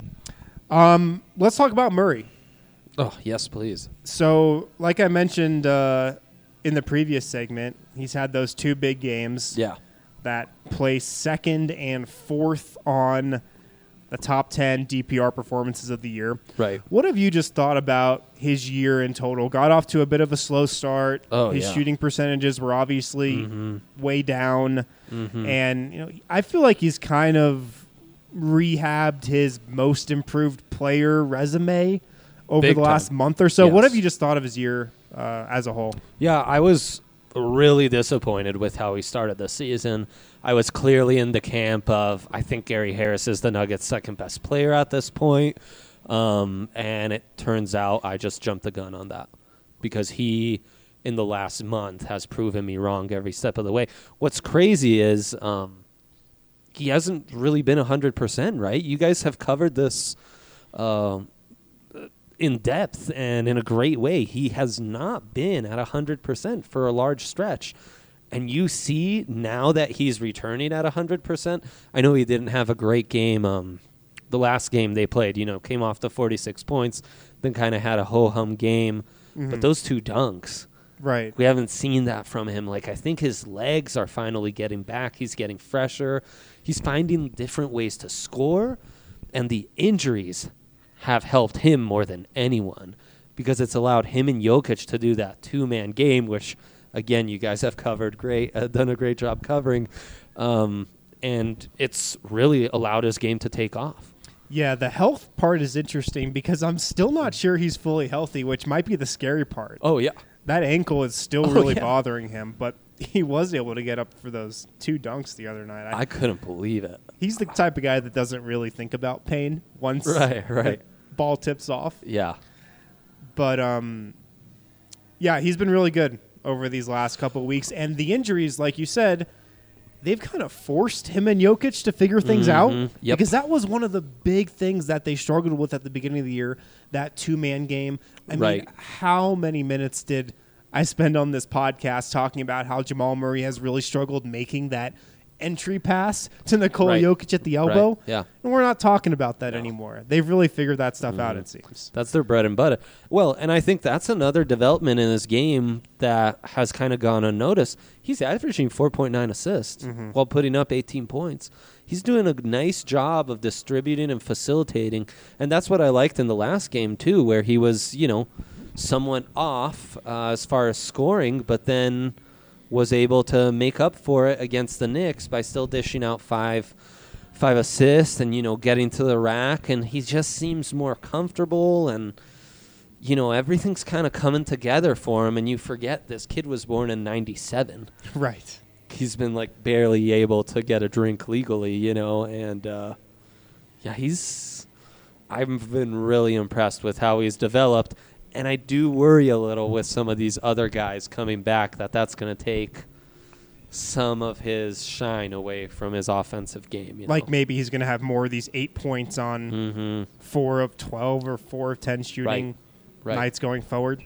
Let's talk about Murray. Oh, yes, please. So, like I mentioned in the previous segment, he's had those 2 big games. Yeah. That place 2nd and 4th on the top 10 DPR performances of the year. Right. What have you just thought about his year in total? Got off to a bit of a slow start. His shooting percentages were obviously way down. And, I feel like he's kind of rehabbed his most improved player resume over the last month or so. Yes. What have you just thought of his year as a whole? Yeah, I was really disappointed with how he started the season. I was clearly in the camp of, I think Gary Harris is the Nuggets' second best player at this point. And it turns out I just jumped the gun on that because he, in the last month, has proven me wrong every step of the way. What's crazy is he hasn't really been 100%, right? You guys have covered this in depth and in a great way. He has not been at 100% for a large stretch. And you see now that he's returning at 100%. I know he didn't have a great game. The last game they played, came off to 46 points, then kind of had a ho-hum game. But those 2 dunks, right? We haven't seen that from him. I think his legs are finally getting back. He's getting fresher. He's finding different ways to score. And the injuries have helped him more than anyone because it's allowed him and Jokic to do that 2-man game, which, again, you guys have covered done a great job covering. And it's really allowed his game to take off. Yeah, the health part is interesting because I'm still not sure he's fully healthy, which might be the scary part. Oh, yeah. That ankle is still really bothering him, but he was able to get up for those 2 dunks the other night. I couldn't believe it. He's the type of guy that doesn't really think about pain once right. the ball tips off. Yeah. But, yeah, he's been really good over these last couple of weeks. And the injuries, like you said, they've kind of forced him and Jokic to figure things out. Yep. Because that was one of the big things that they struggled with at the beginning of the year, that 2-man game. I mean, how many minutes did I spend on this podcast talking about how Jamal Murray has really struggled making that entry pass to Nikola Jokic at the elbow? Right. Yeah. And we're not talking about that anymore. They've really figured that stuff out, it seems. That's their bread and butter. Well, and I think that's another development in his game that has kind of gone unnoticed. He's averaging 4.9 assists while putting up 18 points. He's doing a nice job of distributing and facilitating, and that's what I liked in the last game, too, where he was, somewhat off as far as scoring, but then was able to make up for it against the Knicks by still dishing out five assists and, getting to the rack. And he just seems more comfortable and, everything's kind of coming together for him. And you forget this kid was born in 97. Right. He's been, barely able to get a drink legally, and, I've been really impressed with how he's developed. And I do worry a little with some of these other guys coming back that's going to take some of his shine away from his offensive game. Maybe he's going to have more of these 8 points on 4 of 12 or 4 of 10 shooting nights going forward.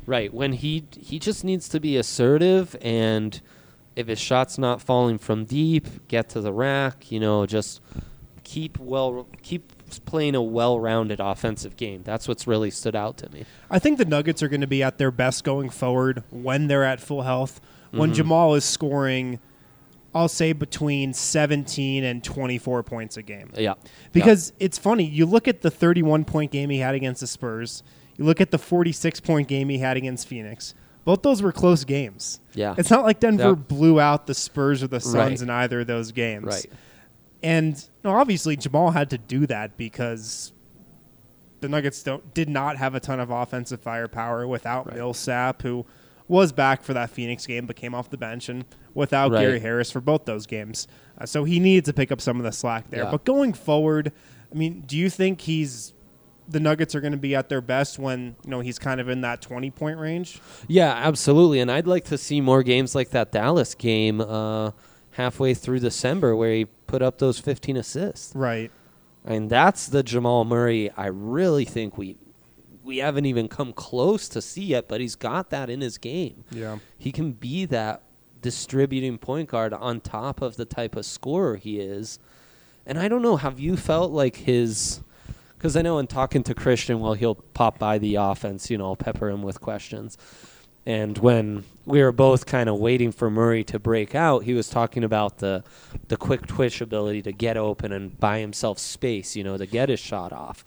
Right. When he just needs to be assertive, and if his shot's not falling from deep, get to the rack, just keep playing a well-rounded offensive game. That's what's really stood out to me. I think the Nuggets are going to be at their best going forward when they're at full health. When Jamal is scoring, I'll say between 17 and 24 points a game. Yeah. Because it's funny. You look at the 31-point game he had against the Spurs. You look at the 46-point game he had against Phoenix. Both those were close games. Yeah. It's not like Denver blew out the Spurs or the Suns in either of those games. Right. And obviously Jamal had to do that because the Nuggets did not have a ton of offensive firepower without Millsap, who was back for that Phoenix game but came off the bench, and without Gary Harris for both those games. So he needed to pick up some of the slack there. Yeah. But going forward, I mean, do you think the Nuggets are going to be at their best when he's kind of in that 20-point range? Yeah, absolutely. And I'd like to see more games like that Dallas game halfway through December where he put up those 15 assists. Right. And that's the Jamal Murray I really think we haven't even come close to see yet, but he's got that in his game. Yeah. He can be that distributing point guard on top of the type of scorer he is. And I don't know, have you felt like because I know in talking to Christian, he'll pop by the offense, pepper him with questions. And when we were both kind of waiting for Murray to break out, he was talking about the quick twitch ability to get open and buy himself space, to get his shot off.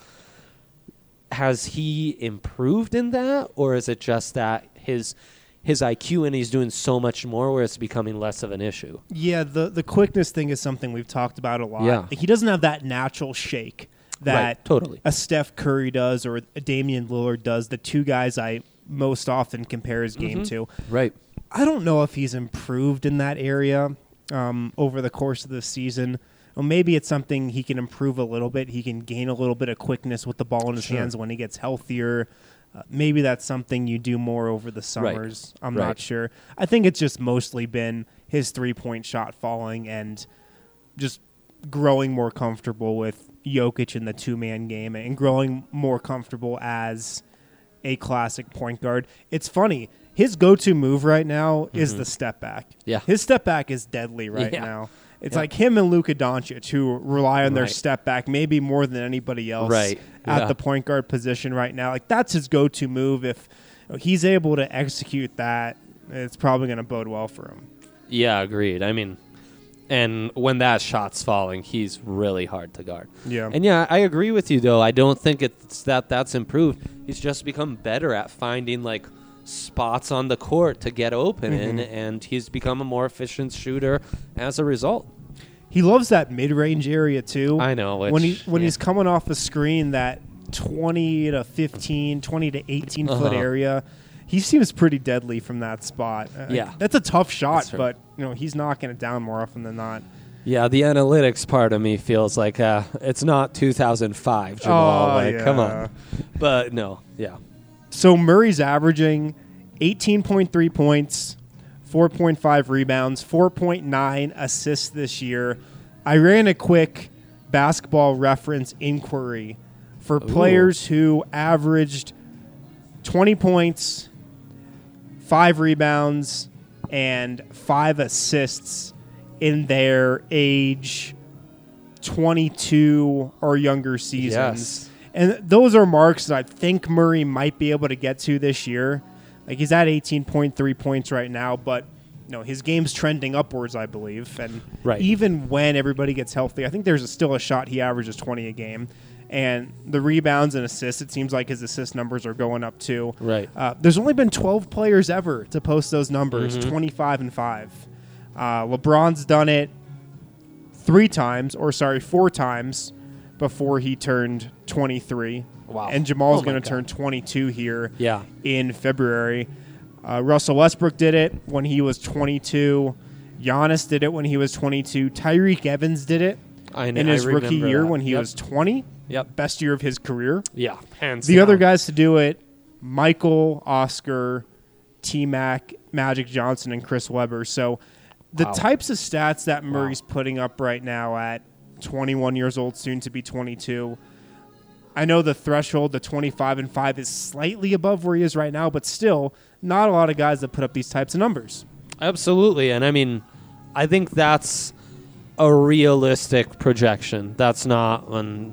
Has he improved in that, or is it just that his IQ and he's doing so much more where it's becoming less of an issue? Yeah, the quickness thing is something we've talked about a lot. Yeah. He doesn't have that natural shake that totally. a Steph Curry does or a Damian Lillard does, the two guys I most often compare his game to. Right. I don't know if he's improved in that area over the course of the season. Well, maybe it's something he can improve a little bit. He can gain a little bit of quickness with the ball in his hands when he gets healthier. Maybe that's something you do more over the summers. I'm not sure. I think it's just mostly been his three-point shot falling and just growing more comfortable with Jokic in the two-man game and growing more comfortable as a classic point guard. It's funny. His go-to move right now is the step back. Yeah. His step back is deadly right now. It's like him and Luka Doncic, who rely on their step back maybe more than anybody else at the point guard position right now. Like, that's his go-to move. If he's able to execute that, it's probably going to bode well for him. Yeah, agreed. I mean, and when that shot's falling, he's really hard to guard. Yeah. And yeah, I agree with you, though. I don't think it's that's improved. He's just become better at finding, like, spots on the court to get open in, and he's become a more efficient shooter as a result. He loves that mid-range area too. I know. When he's coming off the screen, that 20 to 15, 20 to 18 foot area, he seems pretty deadly from that spot. Yeah. That's a tough shot, but he's knocking it down more often than not. Yeah, the analytics part of me feels like it's not 2005, Jamal. Come on. But no, yeah. So Murray's averaging 18.3 points, 4.5 rebounds, 4.9 assists this year. I ran a quick basketball reference inquiry for players who averaged 20 points, 5 rebounds, and 5 assists in their age 22 or younger seasons. Yes. And those are marks that I think Murray might be able to get to this year. Like, he's at 18.3 points right now, but his game's trending upwards, I believe. And even when everybody gets healthy, I think there's still a shot he averages 20 a game. And the rebounds and assists, it seems like his assist numbers are going up too. Right. There's only been 12 players ever to post those numbers, 25 and 5. LeBron's done it 4 times before he turned 23. Wow. And Jamal's going to turn 22 here in February. Russell Westbrook did it when he was 22. Giannis did it when he was 22. Tyreek Evans did it in his rookie year when he was 20. Yep. Best year of his career. Yeah, hands The down. other guys to do it, Michael, Oscar, T-Mac, Magic Johnson, and Chris Webber. So the types of stats that Murray's putting up right now at 21 years old, soon to be 22, I know the threshold, the 25-5, is slightly above where he is right now, but still not a lot of guys that put up these types of numbers. Absolutely. And I mean, I think that's a realistic projection. That's not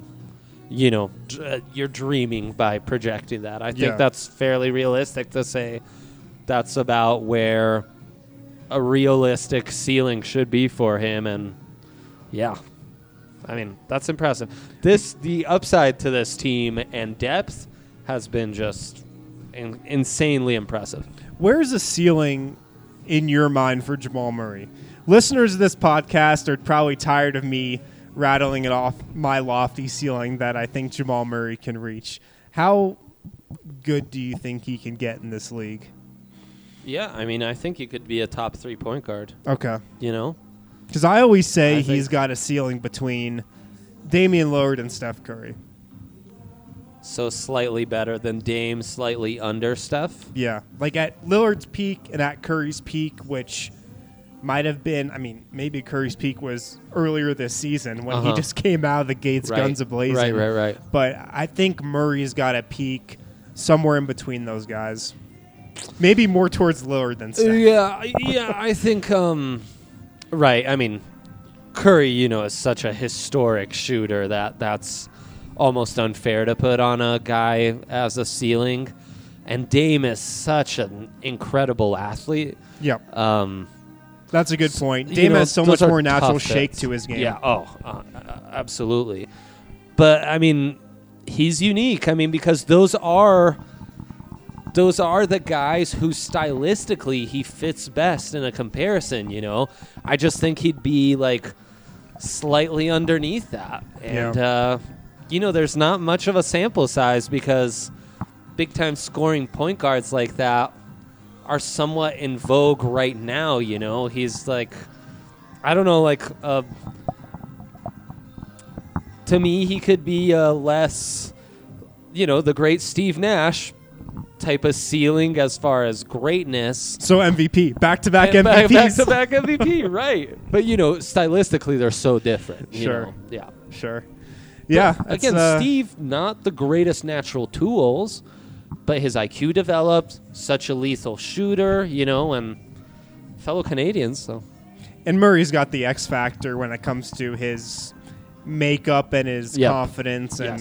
you're dreaming by projecting that. I think that's fairly realistic to say that's about where a realistic ceiling should be for him. And yeah, I mean, that's impressive. The upside to this team and depth has been just insanely impressive. Where's the ceiling in your mind for Jamal Murray? Listeners of this podcast are probably tired of me rattling it off my lofty ceiling that I think Jamal Murray can reach. How good do you think he can get in this league? Yeah, I mean, I think he could be a top 3 point guard. Okay. Because I always say he's got a ceiling between Damian Lillard and Steph Curry. So slightly better than Dame, slightly under Steph? Yeah. Like at Lillard's peak and at Curry's peak, which might have been, I mean, maybe Curry's peak was earlier this season when he just came out of the gates guns a-blazing. Right. But I think Murray's got a peak somewhere in between those guys. Maybe more towards Lillard than Steph. Yeah, I think, right. I mean, Curry, is such a historic shooter that's almost unfair to put on a guy as a ceiling. And Dame is such an incredible athlete. Yep. That's a good point. Dame has so much more natural shake to his game. Yeah, absolutely. But, I mean, he's unique. I mean, because those are the guys who stylistically he fits best in a comparison, I just think he'd be, like, slightly underneath that. And, there's not much of a sample size because big-time scoring point guards like that are somewhat in vogue right now, He's like, I don't know, like, to me, he could be less, the great Steve Nash type of ceiling as far as greatness. So MVP, back-to-back MVPs. Back-to-back MVP, right. But, stylistically, they're so different. Sure. Yeah. Sure. Yeah. Again, Steve, not the greatest natural tools, but his IQ developed, such a lethal shooter, and fellow Canadians. So, and Murray's got the X factor when it comes to his makeup and his confidence and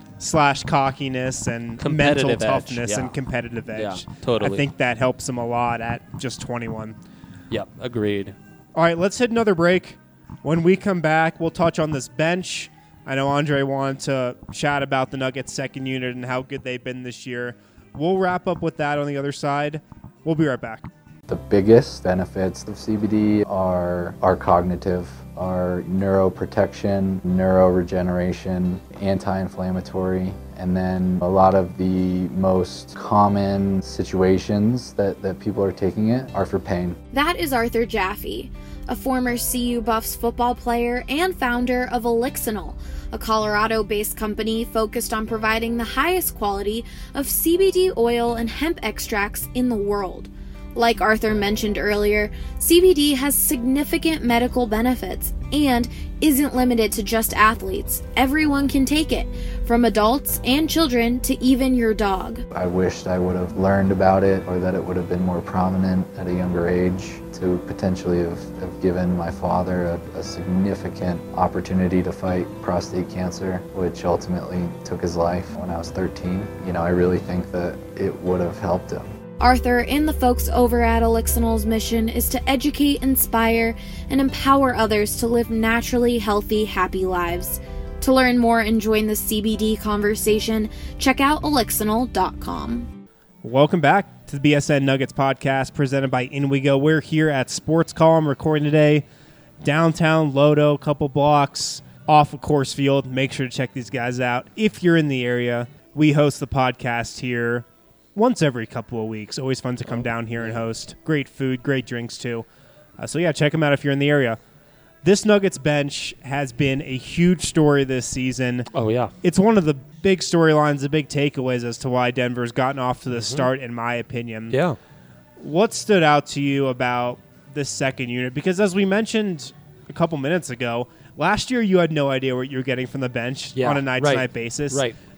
/ cockiness and mental toughness and competitive edge. Yeah, totally. I think that helps him a lot at just 21. Yep, agreed. All right, let's hit another break. When we come back, we'll touch on this bench. I know Andre wanted to chat about the Nuggets second unit and how good they've been this year. We'll wrap up with that on the other side. We'll be right back. The biggest benefits of CBD are cognitive, are neuroprotection, neuroregeneration, anti-inflammatory, and then a lot of the most common situations that people are taking it are for pain. That is Arthur Jaffe, a former CU Buffs football player and founder of Elixinol, a Colorado-based company focused on providing the highest quality of CBD oil and hemp extracts in the world. Like Arthur mentioned earlier, CBD has significant medical benefits and isn't limited to just athletes. Everyone can take it, from adults and children to even your dog. I wished I would have learned about it, or that it would have been more prominent at a younger age, to potentially have given my father a significant opportunity to fight prostate cancer, which ultimately took his life when I was 13. I really think that it would have helped him. Arthur and the folks over at Elixinol's mission is to educate, inspire, and empower others to live naturally healthy, happy lives. To learn more and join the CBD conversation, check out Elixinol.com. Welcome back to the BSN Nuggets podcast presented by InWeGo. We're here at Sports Column recording today, downtown Lodo, a couple blocks off of Coors Field. Make sure to check these guys out if you're in the area. We host the podcast here once every couple of weeks. Always fun to come down here and host. Great food, great drinks too. So yeah, check them out if you're in the area. This Nuggets bench has been a huge story this season. Oh yeah. It's one of the big storylines, the big takeaways as to why Denver's gotten off to the start, in my opinion. Yeah. What stood out to you about this second unit? Because as we mentioned a couple minutes ago, last year you had no idea what you were getting from the bench on a night-to-night basis. Right.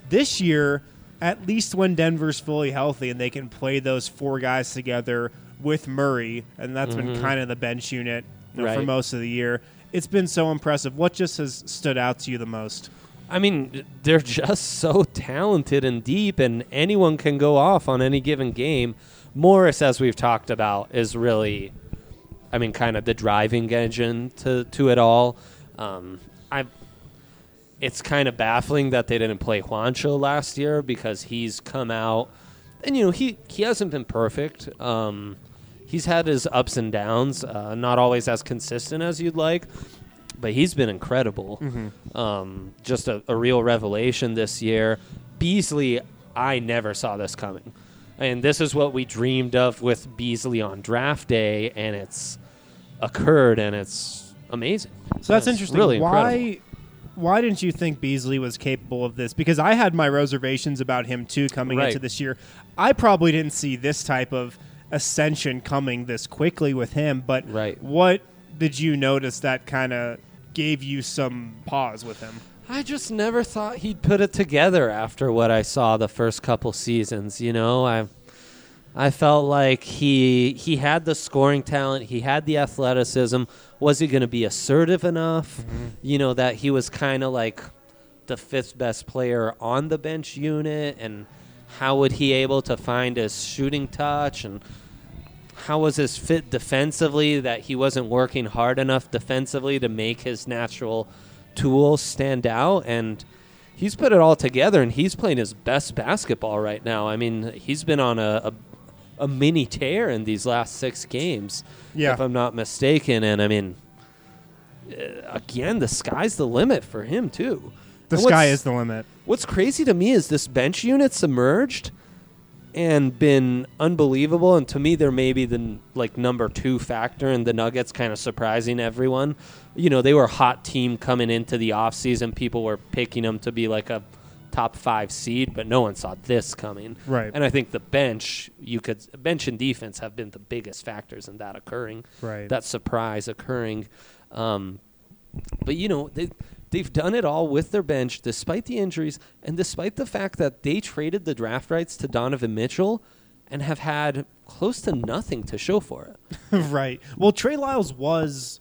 This year, at least when Denver's fully healthy and they can play those 4 guys together with Murray, and that's been kind of the bench unit for most of the year, it's been so impressive. What just has stood out to you the most? I mean, they're just so talented and deep, and anyone can go off on any given game. Morris, as we've talked about, is really, I mean, kind of the driving engine to it all. It's kind of baffling that they didn't play Juancho last year because he's come out, and, he hasn't been perfect. He's had his ups and downs, not always as consistent as you'd like. But he's been incredible. Just a real revelation this year. Beasley, I never saw this coming. And this is what we dreamed of with Beasley on draft day, and it's occurred, and it's amazing. So that's interesting. Really incredible. Why didn't you think Beasley was capable of this? Because I had my reservations about him, too, coming into this year. I probably didn't see this type of ascension coming this quickly with him, but what did you notice that kind of gave you some pause with him? I just never thought he'd put it together after what I saw the first couple seasons. I felt like he had the scoring talent, he had the athleticism. Was he going to be assertive enough? That he was kind of like the 5th best player on the bench unit, and how would he able to find his shooting touch, and how was his fit defensively, that he wasn't working hard enough defensively to make his natural tools stand out? And he's put it all together, and he's playing his best basketball right now. I mean, he's been on a mini tear in these last 6 games, if I'm not mistaken. And, I mean, again, the sky's the limit for him, too. The sky is the limit. What's crazy to me is this bench unit's emerged and been unbelievable, and to me they're maybe the number 2 factor in the Nuggets, kind of surprising everyone. They were a hot team coming into the offseason. People were picking them to be like a top 5 seed, but no one saw this coming. Right. And I think the bench and defense have been the biggest factors in that occurring. Right. That surprise occurring. But they've done it all with their bench, despite the injuries, and despite the fact that they traded the draft rights to Donovan Mitchell and have had close to nothing to show for it. Right. Well, Trey Lyles was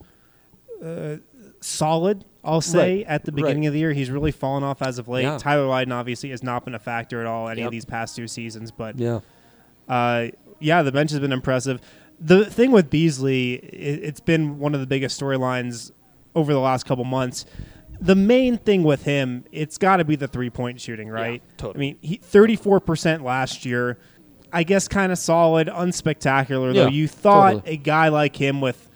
solid, I'll say, at the beginning of the year. He's really fallen off as of late. Yeah. Tyler Lydon obviously has not been a factor at all any of these past 2 seasons. But, the bench has been impressive. The thing with Beasley, it's been one of the biggest storylines over the last couple months. The main thing with him, it's got to be the 3-point shooting, right? Yeah, totally. I mean, 34% last year. I guess kind of solid, unspectacular, though. You thought a guy like him, with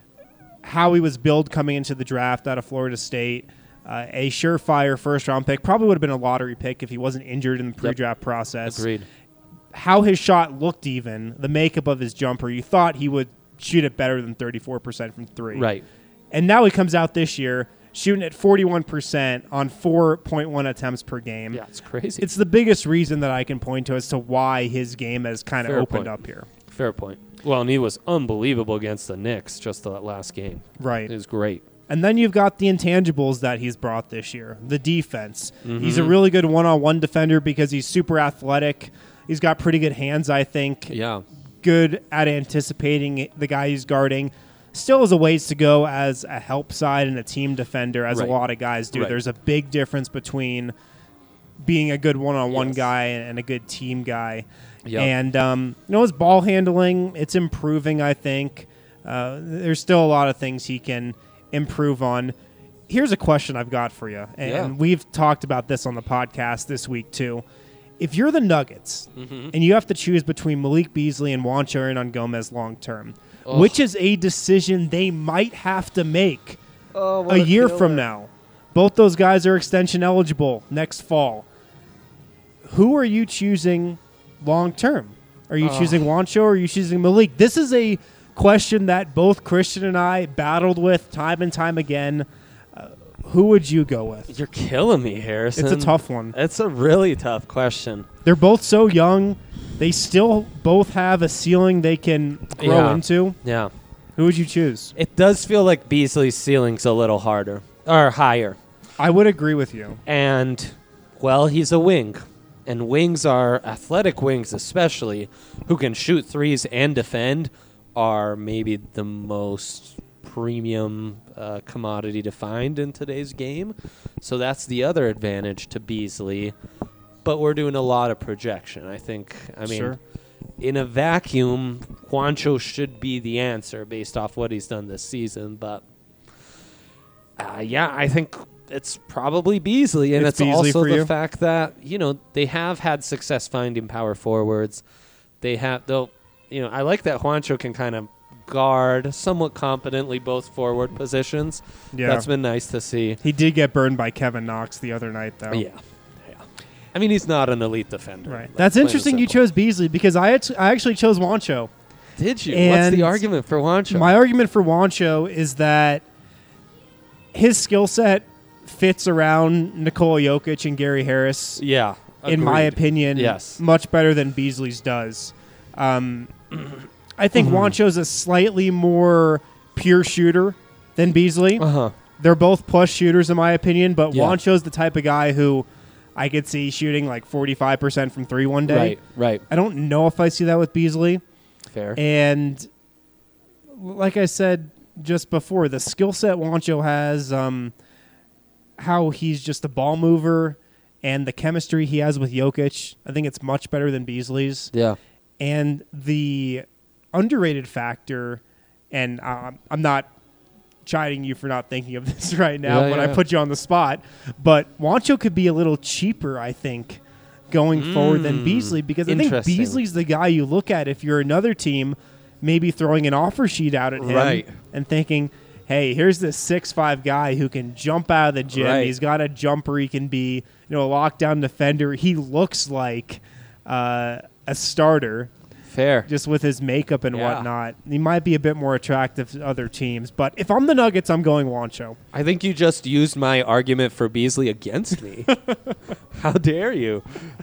how he was billed coming into the draft out of Florida State, a surefire first-round pick, probably would have been a lottery pick if he wasn't injured in the pre-draft process. Agreed. How his shot looked, even, the makeup of his jumper, you thought he would shoot it better than 34% from 3. Right. And now he comes out this year shooting at 41% on 4.1 attempts per game. Yeah, it's crazy. It's the biggest reason that I can point to as to why his game has kind of opened up here. Fair point. Well, and he was unbelievable against the Knicks just that last game. Right. It was great. And then you've got the intangibles that he's brought this year. The defense. He's a really good one-on-one defender because he's super athletic. He's got pretty good hands, I think. Yeah. Good at anticipating the guy he's guarding. Still has a ways to go as a help side and a team defender, as a lot of guys do. There's a big difference between being a good one-on-one guy and a good team guy. Yep. And, his ball handling, it's improving, I think. There's still a lot of things he can improve on. Here's a question I've got for you, and we've talked about this on the podcast this week, too. If you're the Nuggets and you have to choose between Malik Beasley and Juancho Hernangomez long-term, which is a decision they might have to make a year from now. Both those guys are extension eligible next fall. Who are you choosing long-term? Are you choosing Juancho or are you choosing Malik? This is a question that both Christian and I battled with time and time again. Who would you go with? You're killing me, Harrison. It's a tough one. It's a really tough question. They're both so young. They still both have a ceiling they can grow into. Yeah. Who would you choose? It does feel like Beasley's ceiling's a little harder or higher. I would agree with you. And Well, he's a wing. And wings are, athletic wings especially, who can shoot threes and defend, are maybe the most premium commodity to find in today's game. So that's the other advantage to Beasley. But we're doing a lot of projection. I mean, Sure. In a vacuum, Juancho should be the answer based off what he's done this season. But, I think it's probably Beasley. And it's Beasley also for the you? fact that, they have had success finding power forwards. I like that Juancho can kind of guard somewhat competently both forward positions. Yeah. That's been nice to see. He did get burned by Kevin Knox the other night, though. Yeah. I mean, he's not an elite defender. Right. Like, That's plain and interesting you simple. chose Beasley because I actually chose Juancho. Did you? What's And the argument for Juancho? My argument for Juancho is that his skill set fits around Nikola Jokic and Gary Harris. Yeah. In my agreed. opinion, Yes. much better than Beasley's does. I think Juancho's a slightly more pure shooter than Beasley. Uh-huh. They're both plus shooters in my opinion, but Yeah. Juancho's the type of guy who I could see shooting like 45% from three one day. Right. I don't know if I see that with Beasley. Fair. And like I said just before, the skill set Juancho has, how he's just a ball mover, and the chemistry he has with Jokic, I think it's much better than Beasley's. Yeah. And the underrated factor, and I'm not chiding you for not thinking of this right now when I put you on the spot, but Juancho could be a little cheaper, I think, going forward than Beasley, because I think Interesting. Beasley's the guy you look at if you're another team maybe throwing an offer sheet out at him Right. and thinking, hey, here's this 6'5" guy who can jump out of the gym. Right. He's got a jumper. He can be, a lockdown defender. He looks like a starter. Fair. Just with his makeup and Yeah. whatnot. He might be a bit more attractive to other teams. But if I'm the Nuggets, I'm going Juancho. I think you just used my argument for Beasley against me. How dare you?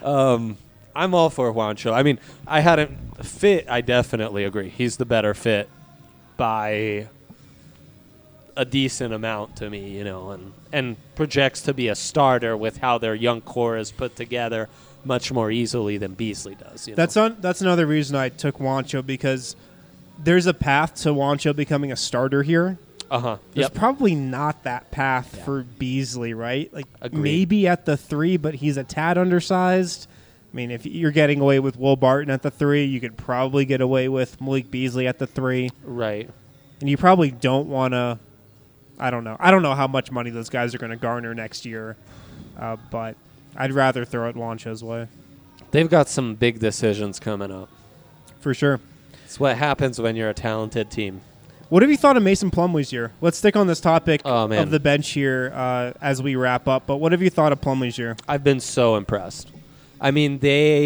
I'm all for Juancho. I mean, I definitely agree. He's the better fit by a decent amount to me, and projects to be a starter with how their young core is put together much more easily than Beasley does. That's another reason I took Juancho, because there's a path to Juancho becoming a starter here. Uh-huh. There's Yep. probably not that path for Beasley, right? Like Agreed. maybe at the 3, but he's a tad undersized. I mean, if you're getting away with Will Barton at the 3, you could probably get away with Malik Beasley at the 3. Right. And you probably don't want to. I don't know. I don't know how much money those guys are going to garner next year, but I'd rather throw it Juancho's way. They've got some big decisions coming up. For sure. It's what happens when you're a talented team. What have you thought of Mason Plumlee's year? Let's stick on this topic Oh, man. of the bench here as we wrap up. But what have you thought of Plumlee's year? I've been so impressed. I mean,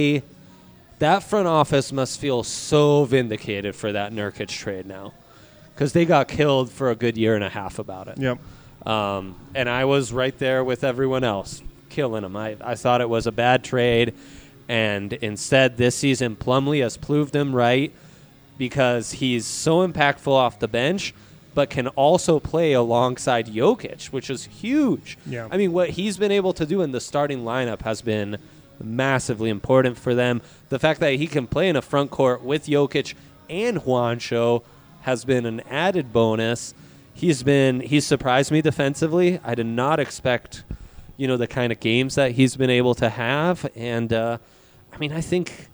that front office must feel so vindicated for that Nurkic trade now, because they got killed for a good year and a half about it. Yep. And I was right there with everyone else, killing them. I thought it was a bad trade, and instead this season Plumlee has proved them right, because he's so impactful off the bench, but can also play alongside Jokic, which is huge. Yeah. I mean, what he's been able to do in the starting lineup has been massively important for them. The fact that he can play in a front court with Jokic and Juancho has been an added bonus. He's surprised me defensively. I did not expect, the kind of games that he's been able to have. And, I think,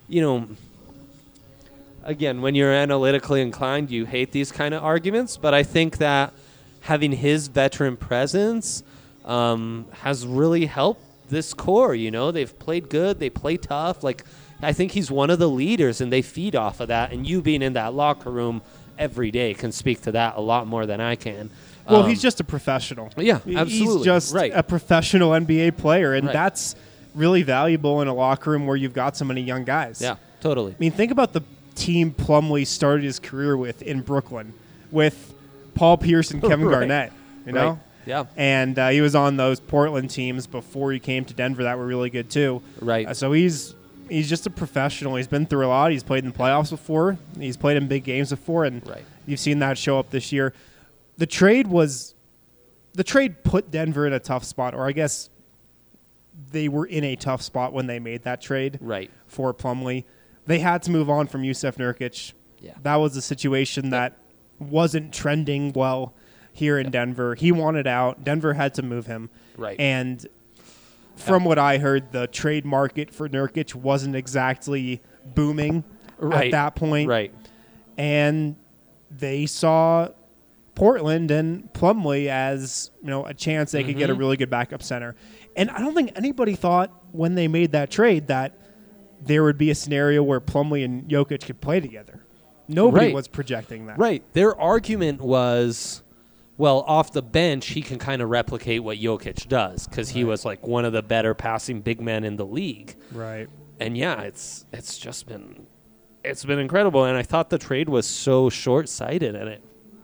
again, when you're analytically inclined, you hate these kind of arguments. But I think that having his veteran presence has really helped this core. They've played good. They play tough. I think he's one of the leaders, and they feed off of that. And you being in that locker room every day can speak to that a lot more than I can. Well, he's just a professional. Yeah, absolutely. He's just a professional NBA player, and Right. that's really valuable in a locker room where you've got so many young guys. Yeah, totally. I mean, think about the team Plumlee started his career with in Brooklyn, with Paul Pierce and Kevin Right. Garnett, know? Right. Yeah. And he was on those Portland teams before he came to Denver that were really good too. Right. So he's just a professional. He's been through a lot. He's played in the playoffs before. He's played in big games before, and you've seen that show up this year. The trade put Denver in a tough spot, or I guess they were in a tough spot when they made that trade Right. for Plumlee. They had to move on from Yusuf Nurkic. Yeah. That was a situation that wasn't trending well here in Denver. He wanted out. Denver had to move him. Right. And from what I heard, the trade market for Nurkic wasn't exactly booming at that point. Right. And they saw Portland and Plumlee as, a chance they could get a really good backup center. And I don't think anybody thought when they made that trade that there would be a scenario where Plumlee and Jokic could play together. Nobody was projecting that. Right. Their argument was, well, off the bench, he can kind of replicate what Jokic does because he was like one of the better passing big men in the league. Right. And yeah, it's just been incredible. And I thought the trade was so short-sighted, and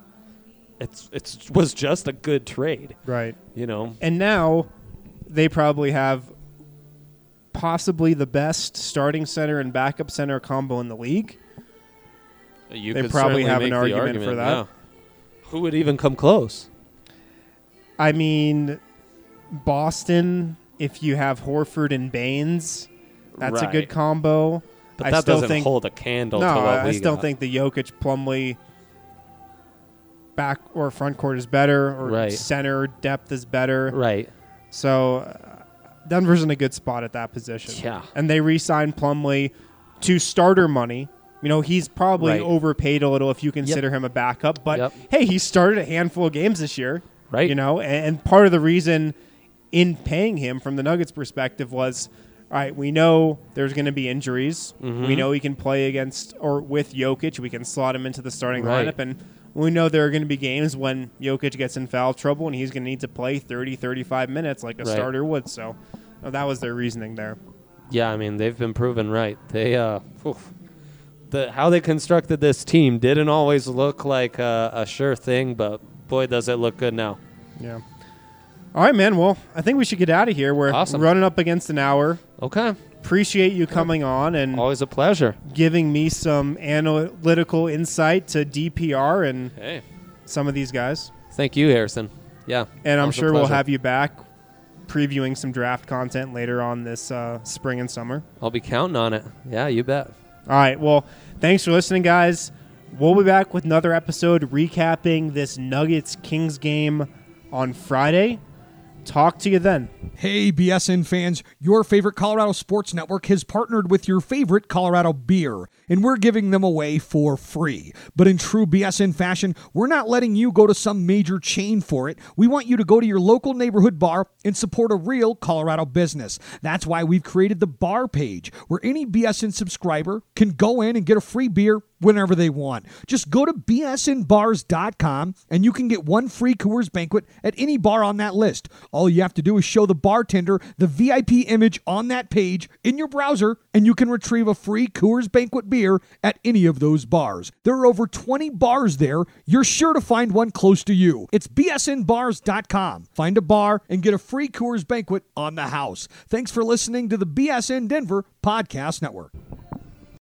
it was just a good trade. Right. And now they probably have possibly the best starting center and backup center combo in the league. They probably have an argument for that. Yeah. Who would even come close? I mean, Boston, if you have Horford and Baines, that's a good combo. But that doesn't hold a candle to what we got. I still think the Jokic Plumlee back or front court is better, or center depth is better. Right. So Denver's in a good spot at that position. Yeah. And they re-signed Plumlee to starter money. He's probably overpaid a little if you consider him a backup. But, hey, he started a handful of games this year. Right. And part of the reason in paying him from the Nuggets' perspective was, all right, we know there's going to be injuries. Mm-hmm. We know he can play against or with Jokic. We can slot him into the starting lineup. And we know there are going to be games when Jokic gets in foul trouble and he's going to need to play 30, 35 minutes like a starter would. So that was their reasoning there. Yeah, I mean, they've been proven right. They how they constructed this team didn't always look like a sure thing, but boy, does it look good now. Yeah. All right, man. Well, I think we should get out of here. We're running up against an hour. Okay. Appreciate you coming on and always a pleasure giving me some analytical insight to DPR and some of these guys. Thank you, Harrison. Yeah. And I'm sure we'll have you back previewing some draft content later on this spring and summer. I'll be counting on it. Yeah, you bet. All right. Well, thanks for listening, guys. We'll be back with another episode recapping this Nuggets-Kings game on Friday. Talk to you then. Hey, BSN fans, your favorite Colorado Sports Network has partnered with your favorite Colorado beer, and we're giving them away for free. But in true BSN fashion, we're not letting you go to some major chain for it. We want you to go to your local neighborhood bar and support a real Colorado business. That's why we've created the bar page, where any BSN subscriber can go in and get a free beer whenever they want. Just go to bsnbars.com and you can get one free Coors Banquet at any bar on that list. All you have to do is show the bartender the VIP image on that page in your browser, and you can retrieve a free Coors Banquet beer at any of those bars. There are over 20 bars there. You're sure to find one close to you. It's bsnbars.com. Find a bar and get a free Coors Banquet on the house. Thanks for listening to the BSN Denver Podcast Network.